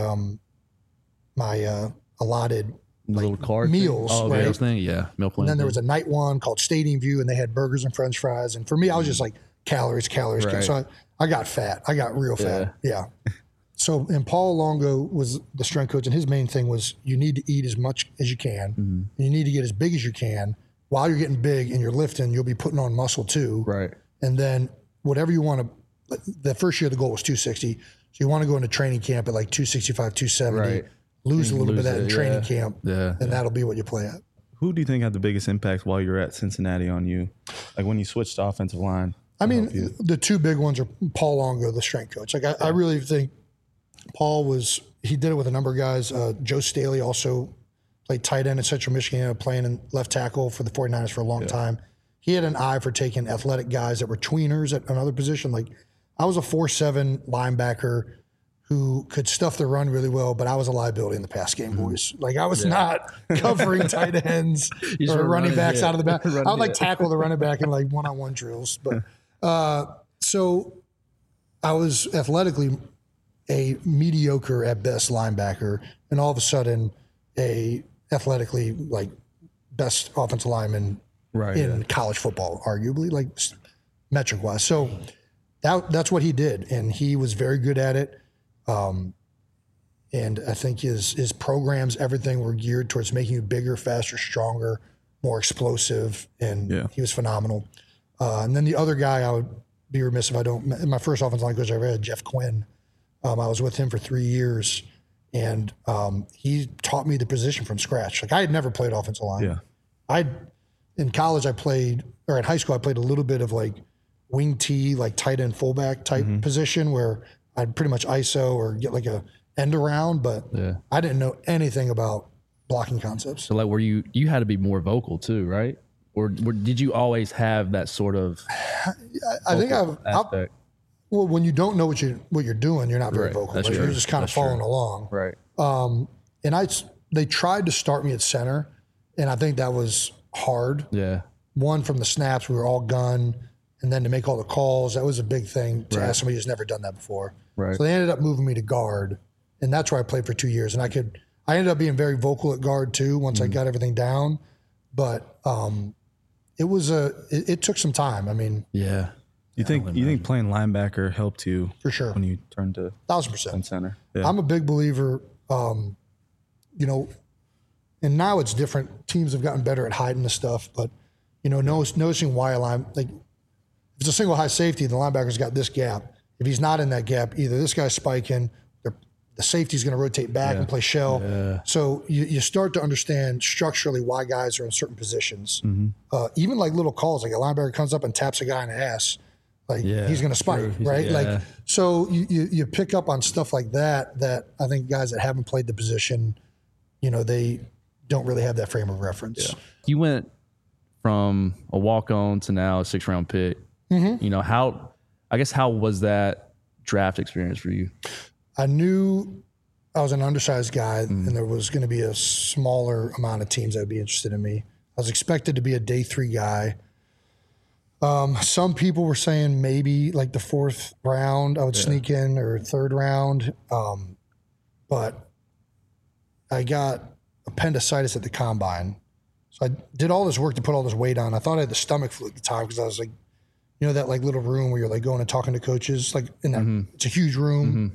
allotted little card meals, thing? Oh, right? meals thing, yeah, meal plan. And then there was a night one called Stadium View, and they had burgers and French fries. And for me, I was just like calories. Right. So I got fat. I got real fat. Yeah. So, and Paul Longo was the strength coach, and his main thing was you need to eat as much as you can. And you need to get as big as you can. While you're getting big and you're lifting, you'll be putting on muscle too. Right. And then whatever you want to, the first year the goal was 260. So you want to go into training camp at like 265, 270. Right. Lose a little bit of that in training camp. Yeah. And that'll be what you play at. Who do you think had the biggest impact while you were at Cincinnati on you? Like when you switched to offensive line? I mean, the two big ones are Paul Longo, the strength coach. Like I really think Paul he did it with a number of guys. Joe Staley also played tight end at Central Michigan, playing in left tackle for the 49ers for a long time. He had an eye for taking athletic guys that were tweeners at another position. Like I was a 4'7" linebacker who could stuff the run really well, but I was a liability in the pass game, boys. Like I was not covering tight ends or running backs out of the back. I would like tackle the running back in like one-on-one drills. But so I was athletically a mediocre at best linebacker, and all of a sudden a athletically like best offensive lineman in college football, arguably, like metric wise. So that's what he did, and he was very good at it. And I think his programs, everything were geared towards making you bigger, faster, stronger, more explosive, and he was phenomenal. And then the other guy, I would be remiss if I don't. My first offensive line coach I ever had, Jeff Quinn. I was with him for 3 years, and he taught me the position from scratch. Like I had never played offensive line. Yeah, in college I played, or in high school I played a little bit of like wing T, like tight end fullback type position where I'd pretty much ISO or get like a end around, but I didn't know anything about blocking concepts. So like, you had to be more vocal too, right? Or did you always have that sort of? I think aspect? Well, when you don't know what you're doing, you're not very vocal. Right? You're just kind of following along. Right. And they tried to start me at center, and I think that was hard. Yeah. One, from the snaps, we were all gun, and then to make all the calls, that was a big thing to ask somebody who's never done that before. Right. So they ended up moving me to guard, and that's where I played for 2 years. And I ended up being very vocal at guard too once I got everything down. But it took some time. I mean, You think playing linebacker helped you for sure when you turned to 1,000% center? Yeah. I'm a big believer. And now it's different. Teams have gotten better at hiding the stuff, but noticing why if it's a single high safety, the linebacker's got this gap. If he's not in that gap, either this guy's spiking, the safety's going to rotate back and play shell. Yeah. So you start to understand structurally why guys are in certain positions. Even like little calls, like a linebacker comes up and taps a guy in the ass, he's going to spike, right? Yeah. So you pick up on stuff like that I think guys that haven't played the position, they don't really have that frame of reference. Yeah. You went from a walk-on to now a 6th-round pick. How was that draft experience for you? I knew I was an undersized guy, and there was going to be a smaller amount of teams that would be interested in me. I was expected to be a day 3 guy. Some people were saying maybe like the 4th round I would sneak in, or 3rd round. But I got appendicitis at the combine. So I did all this work to put all this weight on. I thought I had the stomach flu at the time because I was like, that like little room where you're like going and talking to coaches, like in that, it's a huge room.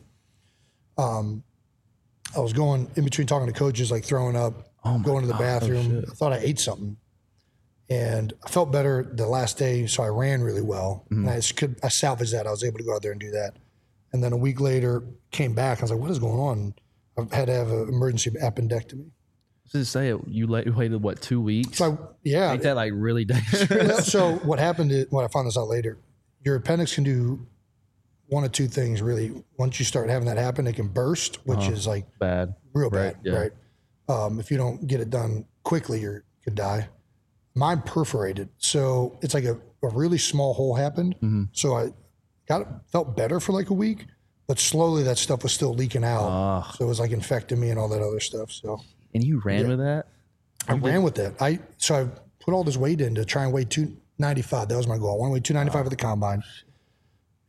I was going in between talking to coaches, like throwing up, going to the bathroom. I thought I ate something. And I felt better the last day, so I ran really well. And I salvaged that. I was able to go out there and do that. And then a week later, came back. I was like, what is going on? I had to have an emergency appendectomy. Just say it. You waited, what, 2 weeks? So, yeah. Ain't that like really dangerous? So what happened is, I found this out later, your appendix can do one of two things, really. Once you start having that happen, it can burst, which is like bad, real bad, right? If you don't get it done quickly, you could die. Mine perforated, so it's like a really small hole happened. So I felt better for like a week, but slowly that stuff was still leaking out. So it was like infecting me and all that other stuff. So and you ran with that? I ran with that. I put all this weight in to try and weigh 295. That was my goal. I want to weigh 295 at the combine.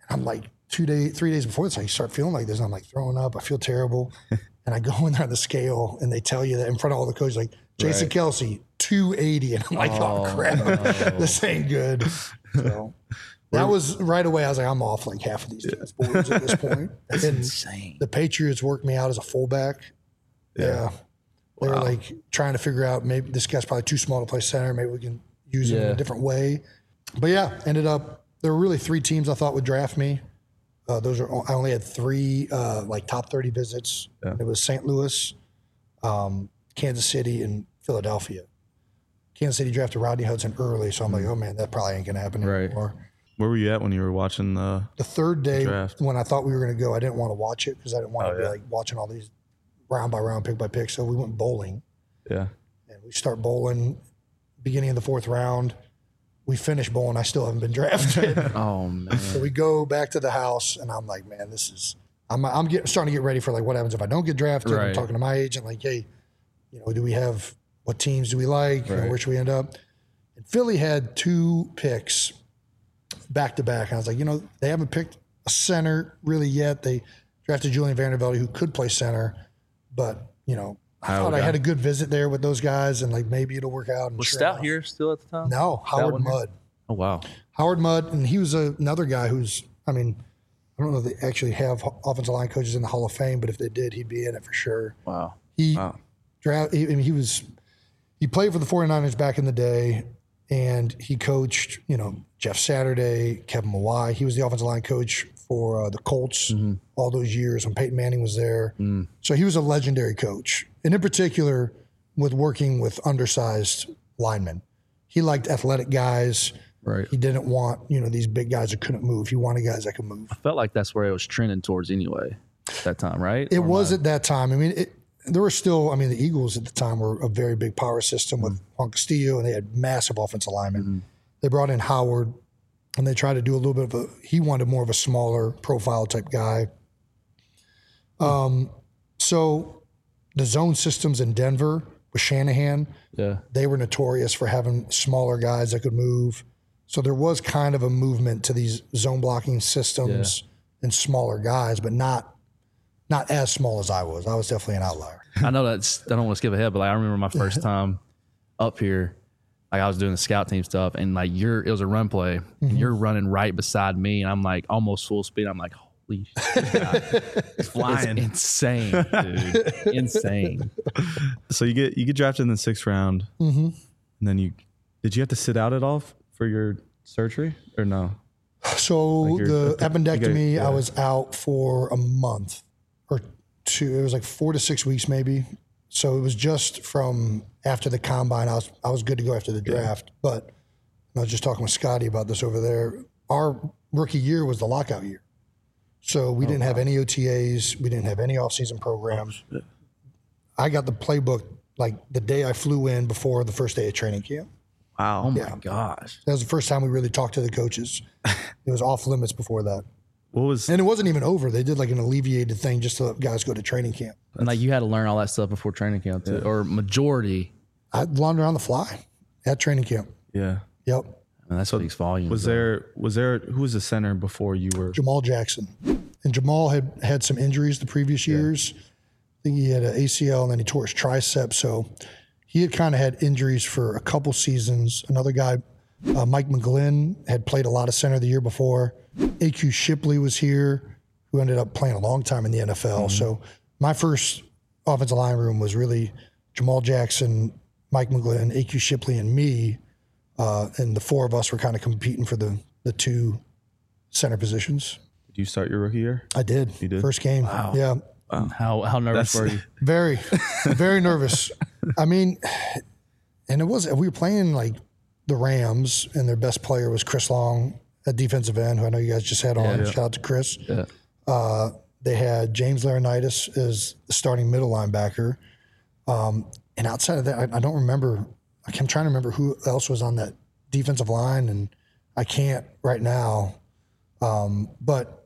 I'm like 3 days before this, I start feeling like this. And I'm like throwing up. I feel terrible. And I go in there on the scale and they tell you that in front of all the coaches, like Jason Kelsey, 280. And I'm like, oh crap, this ain't good. So that was right away. I was like, I'm off like half of these teams' boards at this point. That's and insane. The Patriots worked me out as a fullback. Yeah. They were like trying to figure out maybe this guy's probably too small to play center. Maybe we can use him in a different way. But yeah, ended up, there were really 3 teams I thought would draft me. I only had 3 like top 30 visits. Yeah. It was St. Louis, Kansas City, and Philadelphia. Kansas City drafted Rodney Hudson early, so I'm like, oh man, that probably ain't gonna happen anymore. Where were you at when you were watching the third day draft? When I thought we were gonna go? I didn't want to watch it because I didn't want to be like watching all these round by round, pick by pick. So we went bowling. Yeah. And we start bowling beginning of the 4th round. We finished bowling. I still haven't been drafted. Oh man. So we go back to the house and I'm like, man, this is, I'm starting to get ready for like what happens if I don't get drafted. I'm talking to my agent like, hey, you know, what teams do we like? You know, where should we end up? And Philly had 2 picks back to back. And I was like, you know, they haven't picked a center really yet. They drafted Julian Vandervelde, who could play center, but you know, I thought I had a good visit there with those guys, and like maybe it'll work out. And was Stout here still at the time? No, Howard Mudd. Oh wow, Howard Mudd, and he was another guy who's. I mean, I don't know if they actually have offensive line coaches in the Hall of Fame, but if they did, he'd be in it for sure. Wow. He played for the 49ers back in the day, and he coached, you know, Jeff Saturday, Kevin Mawai. He was the offensive line coach for the Colts all those years when Peyton Manning was there. So he was a legendary coach. And in particular, with working with undersized linemen. He liked athletic guys. Right. He didn't want, you know, these big guys that couldn't move. He wanted guys that could move. I felt like that's where it was trending towards anyway at that time, right? It was at that time. I mean, there were still, I mean, the Eagles at the time were a very big power system with Juan Castillo, and they had massive offensive linemen. They brought in Howard, and they tried to do a little bit of he wanted more of a smaller profile type guy. So the zone systems in Denver with Shanahan, they were notorious for having smaller guys that could move. So there was kind of a movement to these zone blocking systems and smaller guys, but not as small as I was. I was definitely an outlier. I know I don't want to skip ahead, but like I remember my first time up here, like I was doing the scout team stuff, and like it was a run play, and you're running right beside me, and I'm like almost full speed. I'm like, holy shit, it's flying, it's insane, dude, insane. So you get drafted in the 6th round, and then did you have to sit out at all for your surgery or no? So like the appendectomy, I was out for a month or 2. It was like 4 to 6 weeks maybe. So it was just from after the combine. I was good to go after the draft. But I was just talking with Scotty about this over there. Our rookie year was the lockout year. So we didn't have any OTAs. We didn't have any off-season programs. I got the playbook like the day I flew in before the first day of training camp. Wow. Oh my gosh. That was the first time we really talked to the coaches. It was off limits before that. And it wasn't even over. They did like an alleviated thing just to let guys go to training camp. And like you had to learn all that stuff before training camp too, or majority. I learned on the fly at training camp. Yeah. Yep. And that speaks volumes. Was there who was the center before you were? Jamal Jackson. And Jamal had some injuries the previous years. I think he had an ACL and then he tore his tricep. So he had kind of had injuries for a couple seasons. Another guy, Mike McGlynn, had played a lot of center the year before. A.Q. Shipley was here, who ended up playing a long time in the NFL. So my first offensive line room was really Jamal Jackson, Mike McGlynn, A.Q. Shipley, and me. And the 4 of us were kind of competing for the 2 center positions. Did you start your rookie year? I did. You did? First game. Wow. Yeah. Wow. How nervous were you? Very, very nervous. I mean, and we were playing like the Rams, and their best player was Chris Long, a defensive end, who I know you guys just had on. Shout out to Chris. Yeah. They had James Laurinaitis as the starting middle linebacker. And outside of that, I don't remember. I'm trying to remember who else was on that defensive line, and I can't right now. But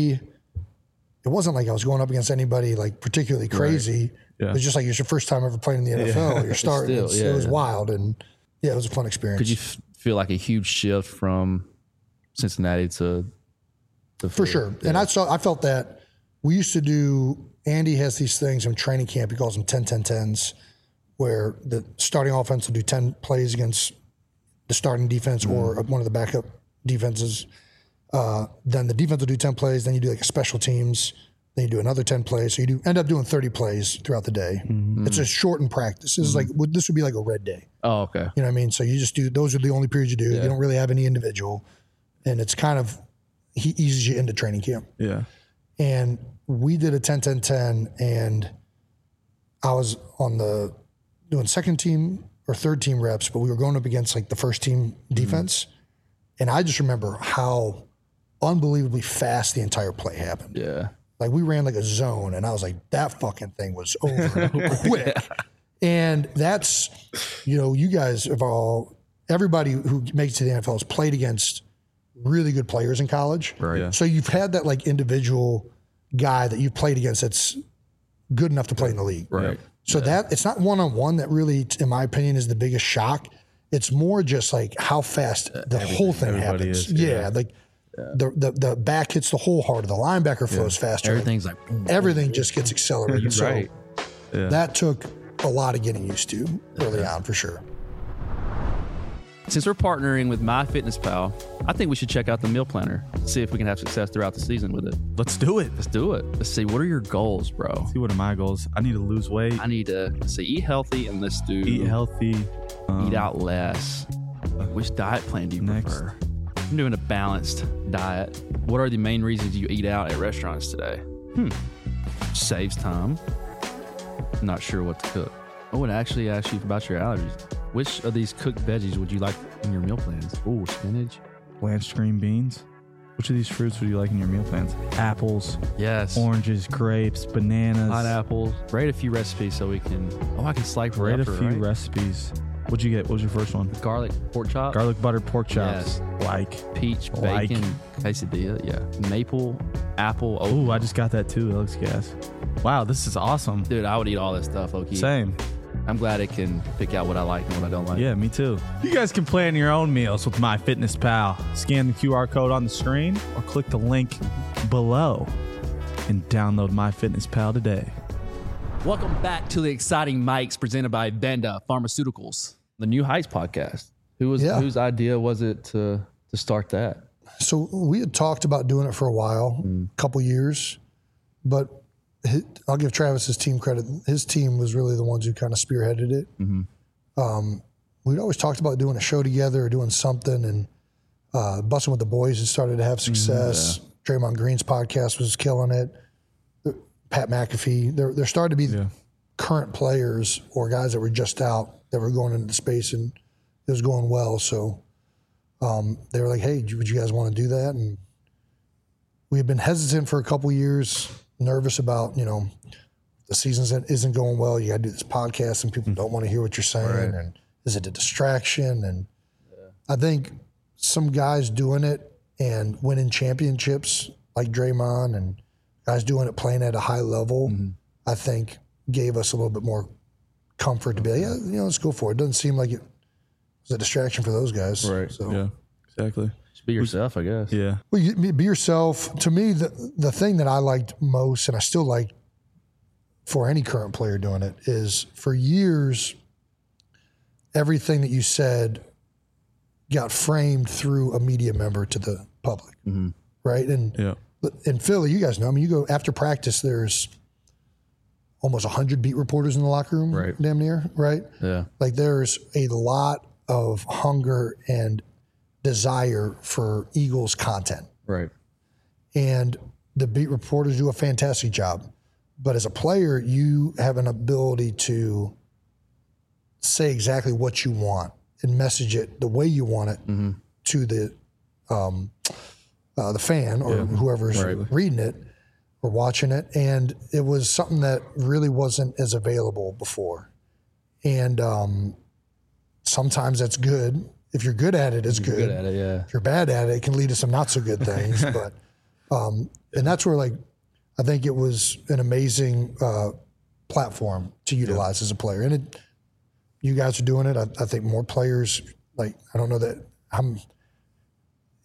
it wasn't like I was going up against anybody like particularly crazy. Right. Yeah. It was just like it's your first time ever playing in the NFL. You're starting. It was wild, and it was a fun experience. Could you feel like a huge shift from Cincinnati to For sure. And I felt that we used to do, Andy has these things in training camp. He calls them 10-10-10s, where the starting offense will do 10 plays against the starting defense or one of the backup defenses. Then the defense will do 10 plays. Then you do like a special teams. Then you do another 10 plays. So you end up doing 30 plays throughout the day. It's a shortened practice. This is like, this would be like a red day. Oh, okay. You know what I mean? So you just do, those are the only periods you do. You don't really have any individual. And it's kind of, he eases you into training camp. Yeah. And we did a 10-10-10, and I was on the doing second team or third team reps, but we were going up against like the first team defense. And I just remember how unbelievably fast the entire play happened. Yeah. Like we ran like a zone, and I was like, that fucking thing was over quick. And that's, you guys have everybody who makes it to the NFL has played against really good players in college. Right. Yeah. So you've had that like individual guy that you've played against that's good enough to play in the league. Right. So that it's not one-on-one that really, in my opinion, is the biggest shock. It's more just like how fast the whole thing happens. The back hits the whole harder. The linebacker flows faster. Everything's like Everything just gets accelerated. So right. that took a lot of getting used to early on, for sure. Since we're partnering with MyFitnessPal, I think we should check out the meal planner. See if we can have success throughout the season with it. Let's do it. Let's do it. Let's see, what are your goals, bro? See, what are my goals? I need to lose weight. I need to eat healthy, and let's do Eat healthy. eat out less. Which diet plan do you prefer? I'm doing a balanced diet. What are the main reasons you eat out at restaurants today? Saves time. Not sure what to cook. I would actually ask you about your allergies. Which of these cooked veggies would you like in your meal plans? Ooh, spinach. Blanched green beans. Which of these fruits would you like in your meal plans? Apples, Yes. oranges, grapes, bananas. Pineapples. Rate a few recipes so we can. Oh, I can slice right Rate a after, few right? recipes. What'd you get? What was your first one? Garlic pork chop. Garlic buttered pork chops. Like. Peach Like. bacon quesadilla. Yeah. Maple apple. Oh, Ooh, I just got that too. That looks gas. Wow, this is awesome. dude, I would eat all this stuff. Okay. Same. I'm glad it can pick out what I like and what I don't like. Yeah, me too. You guys can plan your own meals with MyFitnessPal. Scan the QR code on the screen or click the link below and download MyFitnessPal today. Welcome back to the exciting mics presented by Vanda Pharmaceuticals, the New Heights podcast. Whose idea was it to start that? So we had talked about doing it for a while, a couple years, but I'll give Travis his team credit. His team was really the ones who kind of spearheaded it. We'd always talked about doing a show together or doing something, and Busting with the Boys had started to have success. Draymond Green's podcast was killing it. Pat McAfee. There started to be current players or guys that were just out that were going into the space, and it was going well. So they were like, hey, would you guys want to do that? And we had been hesitant for a couple years, nervous about, the season isn't going well. You got to do this podcast and people don't want to hear what you're saying. And is it a distraction? And I think some guys doing it and winning championships like Draymond and guys doing it playing at a high level, I think gave us a little bit more comfort to be like, let's go for it. It doesn't seem like it was a distraction for those guys. Right. So. Yeah, exactly. Just be yourself, I guess. Yeah. Well, be yourself. To me, the thing that I liked most, and I still like for any current player doing it, is for years, everything that you said got framed through a media member to the public, right? And in Philly, you guys know, you go after practice, there's almost 100 beat reporters in the locker room, Right. damn near, right? Yeah. Like there's a lot of hunger and desire for Eagles content. Right. And the beat reporters do a fantastic job. But as a player, you have an ability to say exactly what you want and message it the way you want it to the fan or whoever's reading it or watching it. And it was something that really wasn't as available before. And sometimes that's good. If you're good at it, it's good. Good at it, yeah. If you're bad at it, it can lead to some not so good things. But and that's where I think it was an amazing platform to utilize as a player. And you guys are doing it. I think more players, I don't know that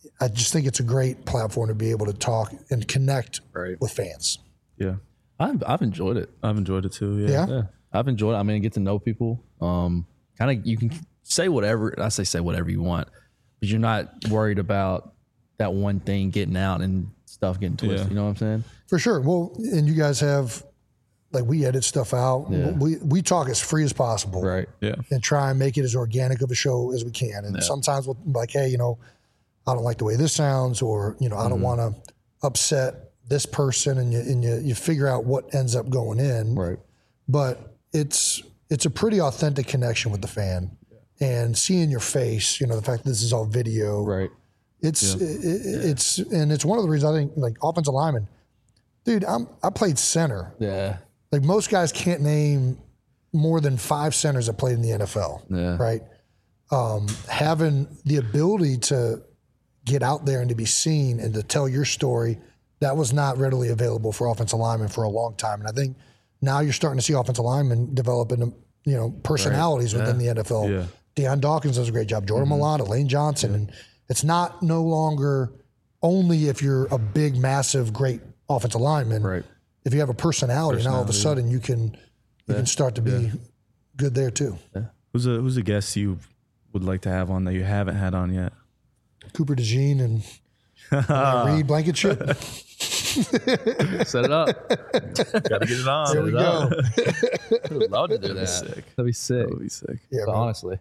I just think it's a great platform to be able to talk and connect Right. with fans. Yeah. I've enjoyed it. I've enjoyed it too. Yeah. Yeah, I've enjoyed it. I mean, get to know people. Kind of, you can say whatever. I say whatever you want, but you're not worried about that one thing getting out and stuff getting twisted. Yeah. You know what I'm saying? For sure. Well, and you guys have, like, we edit stuff out. Yeah. We talk as free as possible. Right. Yeah. And try and make it as organic of a show as we can. And sometimes we'll be like, hey, you know, I don't like the way this sounds, or, you know, I don't want to upset this person, and you figure out what ends up going in. Right. But it's a pretty authentic connection with the fan, and seeing your face, you know, the fact that this is all video, Right. it's one of the reasons I think, like, offensive lineman, dude, I played center. Yeah. Like, most guys can't name more than 5 centers that played in the NFL. Yeah. Right. Having the ability to get out there and to be seen and to tell your story, that was not readily available for offensive linemen for a long time. And I think now you're starting to see offensive linemen develop into, you know, personalities within the NFL. Yeah. Deion Dawkins does a great job. Jordan Mailata, Lane Johnson. And it's not no longer only if you're a big, massive, great offensive lineman. Right. If you have a personality, now all of a sudden you can start to be good there too. Who's a guest you would like to have on that you haven't had on yet? Cooper DeJean and Reed Blankenship. Set it up. Gotta get it on. There we go. I would love to do that. sick. That'd be sick. That would be sick. Yeah, But man. honestly.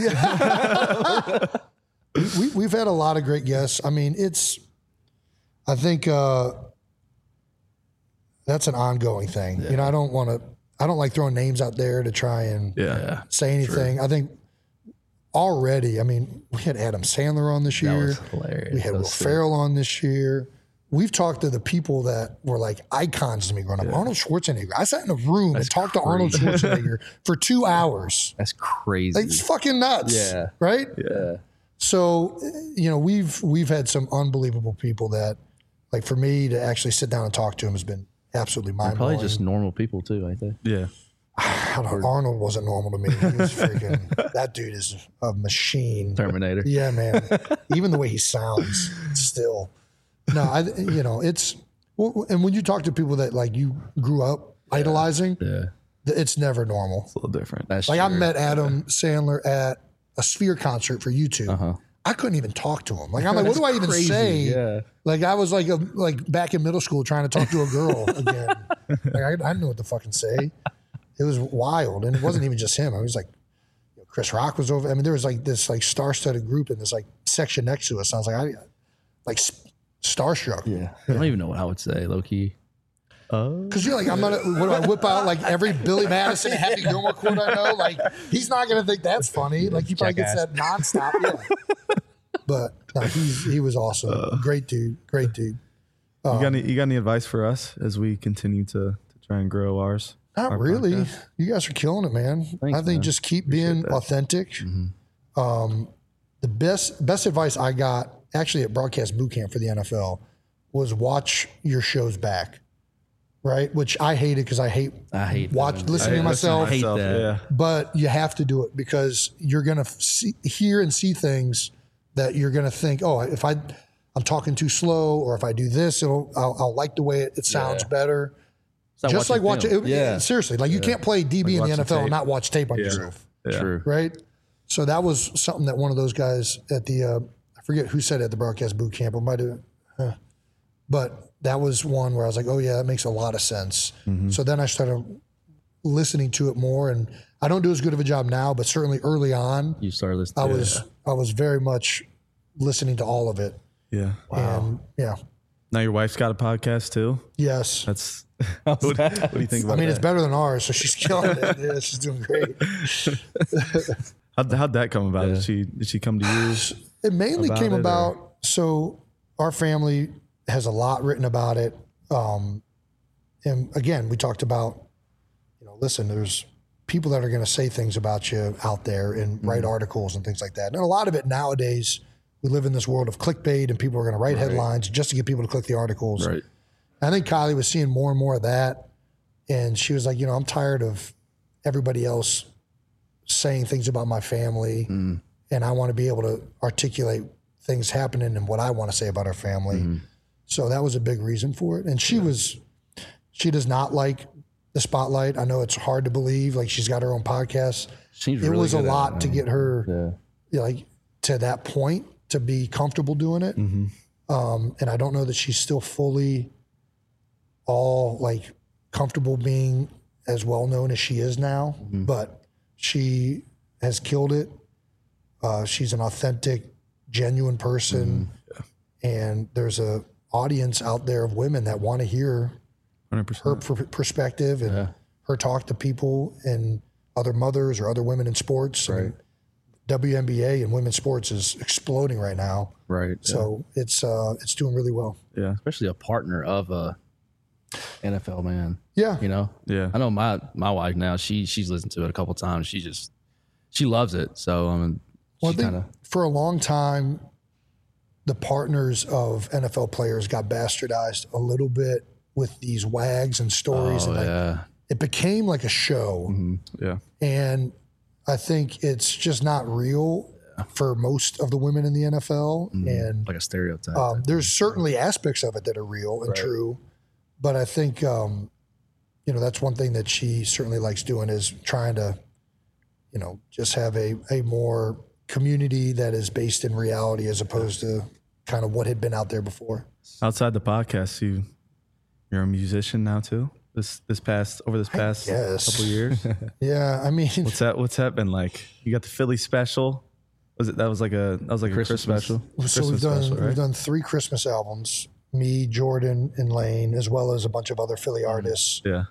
We've had a lot of great guests. I mean, I think that's an ongoing thing. You know, I don't like throwing names out there to try and Yeah. say anything. I think already, I mean, we had Adam Sandler on this That year. was hilarious. We had That Will was sick. Ferrell on this year. We've talked to the people that were like icons to me growing up. Arnold Schwarzenegger. I sat in a room and talked to Arnold Schwarzenegger for 2 hours. That's crazy. Like, it's fucking nuts. Yeah. Right? yeah. So, you know, we've had some unbelievable people that, like, for me to actually sit down and talk to him has been absolutely mind Probably blowing. just normal people too, ain't they? Yeah. Arnold wasn't normal to me. He was freaking, that dude is a machine. Terminator. Yeah, man. Even the way he sounds, still. No, you know, it's, well, and when you talk to people that, like, you grew up idolizing, Yeah. it's never normal. It's a little different. That's Like, I true. met Adam Sandler at a Sphere concert for YouTube. I couldn't even talk to him. Like, I'm like, what do I even crazy. say? Yeah. Like, I was like back in middle school trying to talk to a girl again. Like, I didn't know what to fucking say. It was wild, and it wasn't even just him. I was like, Chris Rock was over. I mean, there was like this like star-studded group in this like section next to us. I was like, starstruck. Yeah. I don't even know what I would say, low key. Because you're like, I'm gonna. What do I whip out like every Billy Madison and Happy Gilmore quote I know? Like, he's not gonna think that's funny. Like, he probably gets that nonstop. Yeah. But no, he was awesome. Great dude. Great dude. You got any advice for us as we continue to try and grow ours? Not our really. podcast? You guys are killing it, man. Thanks, I think man. just keep being authentic. The best advice I got actually at broadcast boot camp for the NFL was watch your shows back. Right, which I hated because I hate that. listening to myself. hate that. Yeah. But you have to do it because you're gonna hear and see things that you're gonna think, oh, if I'm talking too slow, or if I do this, I'll like the way it sounds better. It's Just like watching, film. Yeah. seriously, like you can't play DB in the watching NFL and tape. not watch tape on yourself, True. right? So that was something that one of those guys at the I forget who said it at the broadcast boot camp. It might have, but that was one where I was like, oh yeah, that makes a lot of sense. So then I started listening to it more, and I don't do as good of a job now, but certainly early on, You started listening. I was very much listening to all of it. Yeah. And yeah, Now your wife's got a podcast too. yes. That's what do you think about I mean, that? it's better than ours, so she's killing it. Yeah, she's doing great. How'd that come about? Did she come to you? It mainly About came it, or- about, so our family has a lot written about it. And again, we talked about, listen, there's people that are going to say things about you out there and write articles and things like that. And a lot of it nowadays, we live in this world of clickbait, and people are going to write headlines just to get people to click the articles. Right. I think Kylie was seeing more and more of that. And she was like, I'm tired of everybody else saying things about my family. And I want to be able to articulate things happening and what I want to say about our family. So that was a big reason for it. And she does not like the spotlight. I know it's hard to believe. Like, she's got her own podcast. She's It really was a good at lot it, to man. get her Yeah. like to that point to be comfortable doing it. And I don't know that she's still fully all like comfortable being as well known as she is now, but she has killed it. She's an authentic, genuine person, and there's a audience out there of women that want to hear 100%. her perspective and her talk to people and other mothers or other women in sports. Right. WNBA and women's sports is exploding right now. Right. So it's doing really well. Yeah. Especially a partner of a NFL man. Yeah. You know? Yeah. I know my wife now, she's listened to it a couple times. She loves it. So Well, I she think kind of for a long time, the partners of NFL players got bastardized a little bit with these wags and stories. and like, it became like a show. Yeah. And I think it's just not real for most of the women in the NFL. And like a stereotype. there's certainly aspects of it that are real and true. But I think, that's one thing that she certainly likes doing is trying to, just have a more community that is based in reality as opposed to kind of what had been out there before. Outside the podcast, you're a musician now too. This past guess. couple years. Yeah, I mean, What's that been like? You got the Philly special. That was like a Christmas special. so we've done 3 Christmas albums. Me, Jordan, and Lane, as well as a bunch of other Philly artists. Yeah.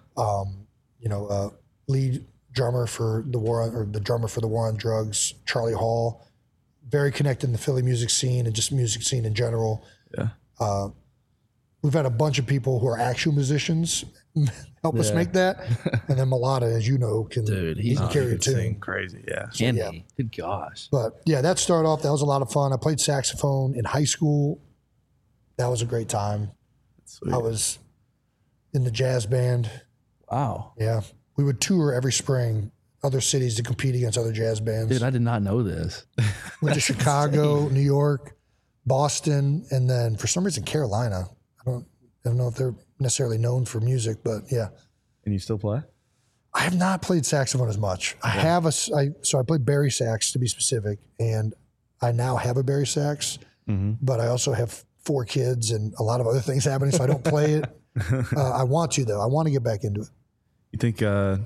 Lead drummer for the drummer for the War on Drugs, Charlie Hall, very connected in the Philly music scene and just music scene in general. Yeah. We've had a bunch of people who are actual musicians help us make that, and then Mulata, as you know, can carry a tune. Crazy. Yeah. Candy. Good gosh. But yeah, that started off. That was a lot of fun. I played saxophone in high school. That was a great time. Sweet. I was in the jazz band. Wow. Yeah, we would tour every spring, other cities to compete against other jazz bands. Dude, I did not know this. Went to Chicago, New York, Boston, and then for some reason Carolina. I don't know if they're necessarily known for music, but yeah. And you still play? I have not played saxophone as much. I have so I played bari sax to be specific, and I now have a bari sax, but I also have 4 kids and a lot of other things happening, so I don't play it. I want to though. I want to get back into it. You think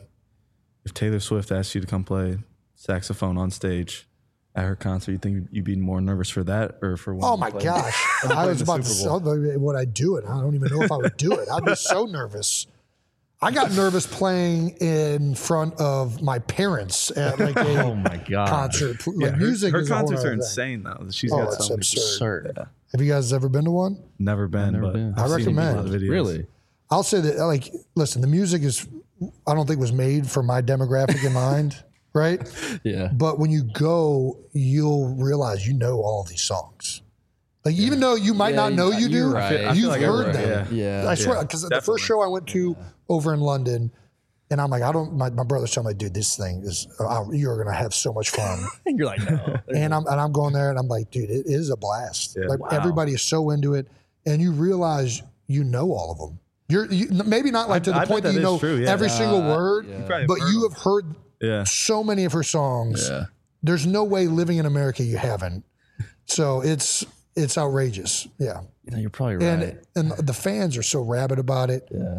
if Taylor Swift asked you to come play saxophone on stage at her concert, you think you'd be more nervous for that or for one? Oh my gosh! I was about to say, would I do it? I don't even know if I would do it. I'd be so nervous. I got nervous playing in front of my parents at like a Oh my god. concert. Yeah, Like music her is a whole concerts other are thing. insane though. She's Oh, got it's so many. absurd. Absurd. Have you guys ever been to one? Never been, Never but been. I've I seen a lot recommend. of videos. Really? I'll say that, like, listen, the music is, I don't think was made for my demographic in mind, right? Yeah. But when you go, you'll realize you know all of these songs. Like, even though you might not know you you're do, right. I feel you've like heard everywhere, them. Yeah. I swear, because the definitely. first show I went to over in London, and I'm like, my brother's telling me, dude, this thing is, you're going to have so much fun. And you're like, no. And I'm going there and I'm like, dude, it is a blast. Yeah. Like Wow. everybody is so into it, and you realize you know all of them. You maybe not like to the I point bet that you that know is true, yeah. every single word, probably but heard you them. have heard Yeah. so many of her songs. Yeah. There's no way living in America you haven't. So it's outrageous. Yeah. You know, you're probably right. And the fans are so rabid about it. Yeah.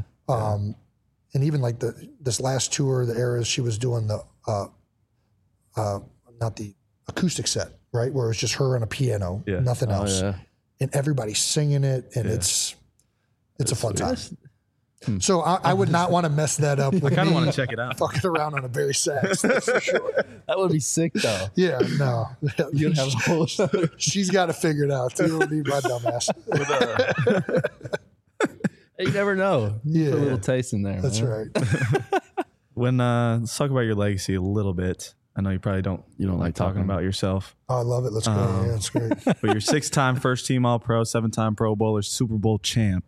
And even like this last tour, the Eras, she was doing the not the acoustic set, right? Where it's just her and a piano, Yeah. nothing else. Yeah. And everybody's singing it, and it's a fun time. Hmm. So I would not want to mess that up. With I kind me of want to check it out. fucking around on a bari sax, that's for sure. That would be sick though. Yeah, no, You'd have a whole she's got to figure it out. You don't need my dumbass. You never know. Yeah. Put a little taste in there. That's man. right. When let's talk about your legacy a little bit. I know you probably don't like talking about yourself, Oh, I love it. Let's go. Yeah, it's great. but you're 6-time first team All Pro, 7-time Pro Bowler, Super Bowl champ.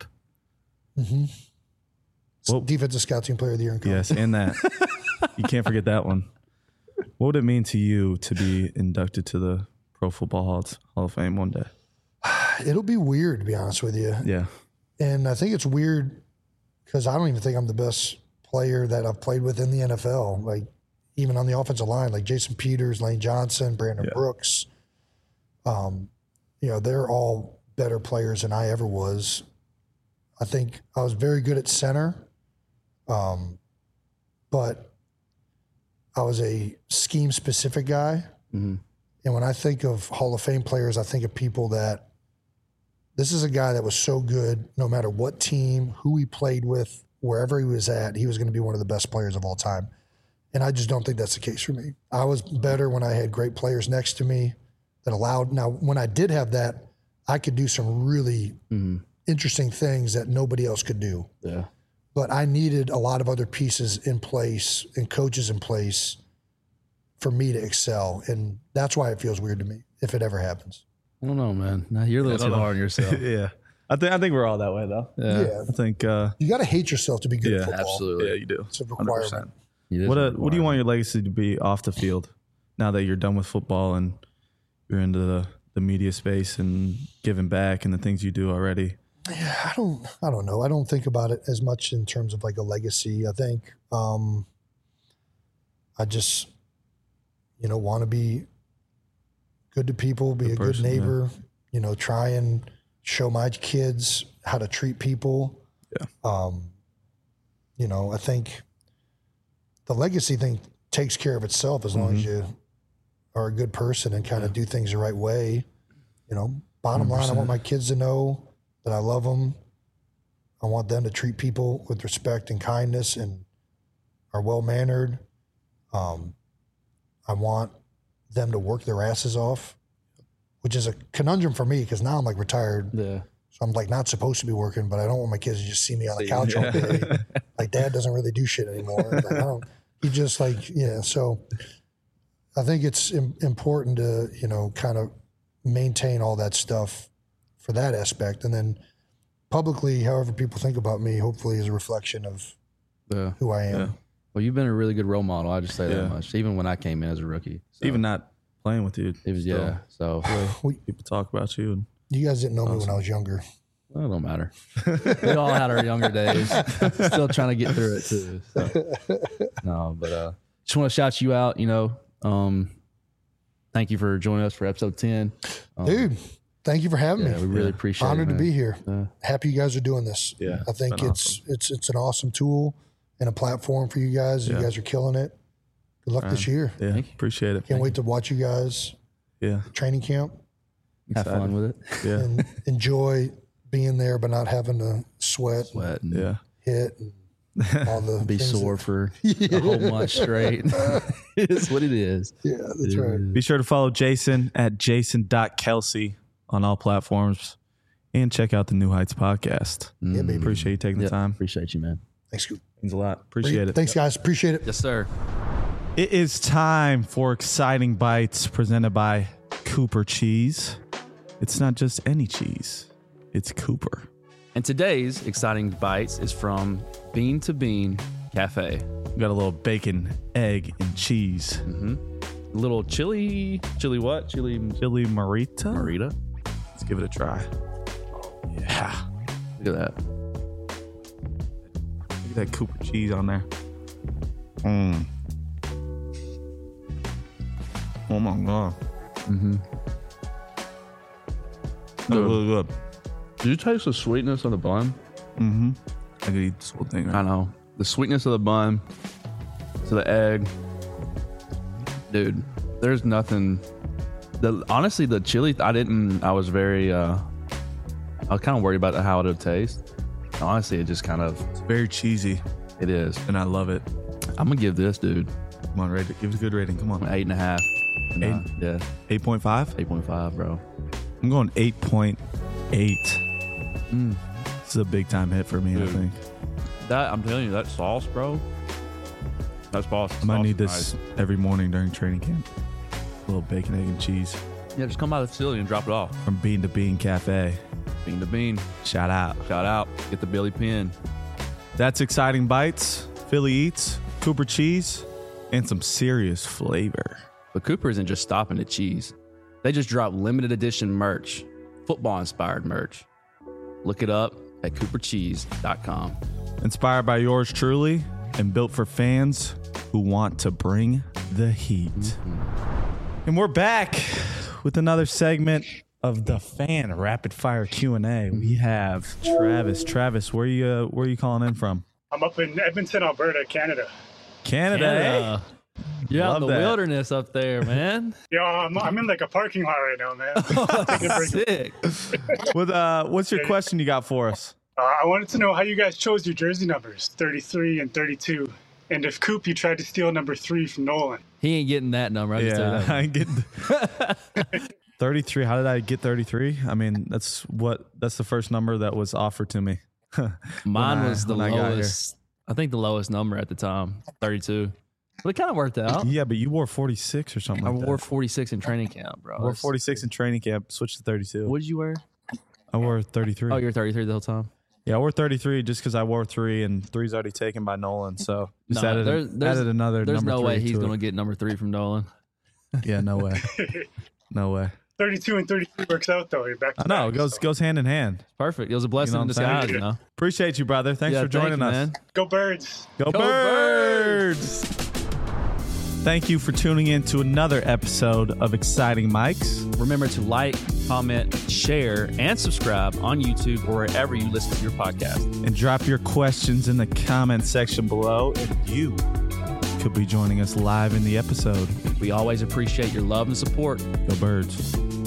Well- Defensive Scout Team Player of the Year in college. Yes, and that you can't forget that one. What would it mean to you to be inducted to the Pro Football Hall of Fame one day. It'll be weird, to be honest with you. Yeah. And I think it's weird because I don't even think I'm the best player that I've played with in the NFL. Like, even on the offensive line, like Jason Peters, Lane Johnson, Brandon Brooks. They're all better players than I ever was. I think I was very good at center, but I was a scheme-specific guy. Mm-hmm. And when I think of Hall of Fame players, I think of people that this is a guy that was so good no matter what team, who he played with, wherever he was at, he was going to be one of the best players of all time. And I just don't think that's the case for me. I was better when I had great players next to me that allowed. Now, when I did have that, I could do some really interesting things that nobody else could do. Yeah. But I needed a lot of other pieces in place and coaches in place for me to excel. And that's why it feels weird to me if it ever happens. I don't know, man. Now you're a little too hard on yourself. Yeah. I think we're all that way, though. Yeah. I think you got to hate yourself to be good at football. Absolutely. Yeah, you do. It's a requirement. What do you want your legacy to be off the field now that you're done with football and you're into the media space and giving back and the things you do already? Yeah, I don't know. I don't think about it as much in terms of like a legacy. I think I just want to be good to people, be a good neighbor, try and show my kids how to treat people. Yeah. I think the legacy thing takes care of itself as long as you are a good person and kind of do things the right way. Bottom line, I want my kids to know that I love them. I want them to treat people with respect and kindness and are well-mannered. I want them to work their asses off, which is a conundrum for me because now I'm like retired. Yeah. So I'm like not supposed to be working, but I don't want my kids to just see me on the couch all day. Like, Dad doesn't really do shit anymore. Like, he just so I think it's important to, kind of maintain all that stuff for that aspect. And then publicly, however people think about me, hopefully is a reflection of who I am. Yeah. Well, you've been a really good role model. I just say that much. Even when I came in as a rookie. So. Even not playing with you. It was, So people talk about you. And you guys didn't know me when I was younger. Well, it don't matter. We all had our younger days. Still trying to get through it too. So. No, but just want to shout you out. Thank you for joining us for episode 10. Dude, thank you for having me. We really appreciate it. Honored to be here. Happy you guys are doing this. Yeah, I think it's an awesome tool and a platform for you guys. You guys are killing it. Good luck this year. Yeah, appreciate it. Can't wait to watch you guys. Yeah, training camp. Have fun with it. Yeah, and enjoy being there, but not having to sweat and hit and all the be sore for a whole month straight. It's what it is. Yeah, that's right. Be sure to follow Jason at jason.kelsey on all platforms and check out the New Heights podcast. Yeah, baby. Appreciate you taking the time. Appreciate you, man. Thanks, Scoop. Means a lot. Appreciate it. Thanks, guys. Appreciate it. Yes, sir. It is time for Exciting Bites presented by Cooper Cheese. It's not just any cheese. It's Cooper. And today's Exciting Bites is from Bean to Bean Cafe. We got a little bacon, egg, and cheese. A little chili what? Chili marita? Marita. Let's give it a try. Yeah. Look at that. Look at that Cooper cheese on there. Oh my God. That's really good. Did you taste the sweetness of the bun? I could eat this whole thing. I know. The sweetness of the bun to the egg. Dude, there's nothing. Honestly, the chili, I was very, I was kind of worried about how it would taste. Honestly, it just kind of. It's very cheesy. It is. And I love it. I'm going to give this, dude. Come on, rate it. Give it a good rating. Come on. 8.5. Yeah. 8.5? 8.5, bro. I'm going 8.8. This is a big time hit for me, dude. I think. I'm telling you, that sauce, bro. That's sauce. I might need this every morning during training camp. A little bacon, egg, and cheese. Yeah, just come by the facility and drop it off. From Bean to Bean Cafe. Bean to Bean. Shout out. Get the Billy Pin. That's Exciting Bites, Philly Eats, Cooper Cheese, and some serious flavor. But Cooper isn't just stopping at cheese. They just dropped limited edition merch, football-inspired merch. Look it up at coopercheese.com. Inspired by yours truly and built for fans who want to bring the heat. And we're back with another segment of the fan rapid fire Q&A. We have Travis. Travis, where you calling in from? I'm up in Edmonton, Alberta, Canada. Canada. Eh? You're out in the Love that. wilderness up there, man. Yo, I'm in like a parking lot right now, man. Taking a break. Sick. What's your question you got for us? I wanted to know how you guys chose your jersey numbers, 33 and 32. And if Coop, you tried to steal number 3 from Nolan. He ain't getting that number. I just tell you that. I ain't getting 33. How did I get 33? I mean, that's the first number that was offered to me. Mine was the when I got here. lowest. I think the lowest number at the time, 32. But it kind of worked out. Yeah, but you wore 46 or something I like wore that. 46 in training camp, bro. I wore 46 in training camp, switched to 32. What did you wear? I wore 33. Oh, you were 33 the whole time. Yeah, I wore 33 just because I wore 3 and 3's already taken by Nolan. So just No, added another There's number no 3 way he's to going to it. get number 3 from Nolan. Yeah, no way. No way. 32 and 33 works out, though. You're back to I know. It back, so. goes hand in hand. Perfect. It was a blessing You know in what I'm disguise, saying? you know. Appreciate you, brother. Thanks Yeah, for joining thank you, us. man. Go Birds. Go Go Birds! Thank you for tuning in to another episode of Exciting Mics. Remember to like, comment, share, and subscribe on YouTube or wherever you listen to your podcast. And drop your questions in the comment section below, and you could be joining us live in the episode. We always appreciate your love and support. Go Birds.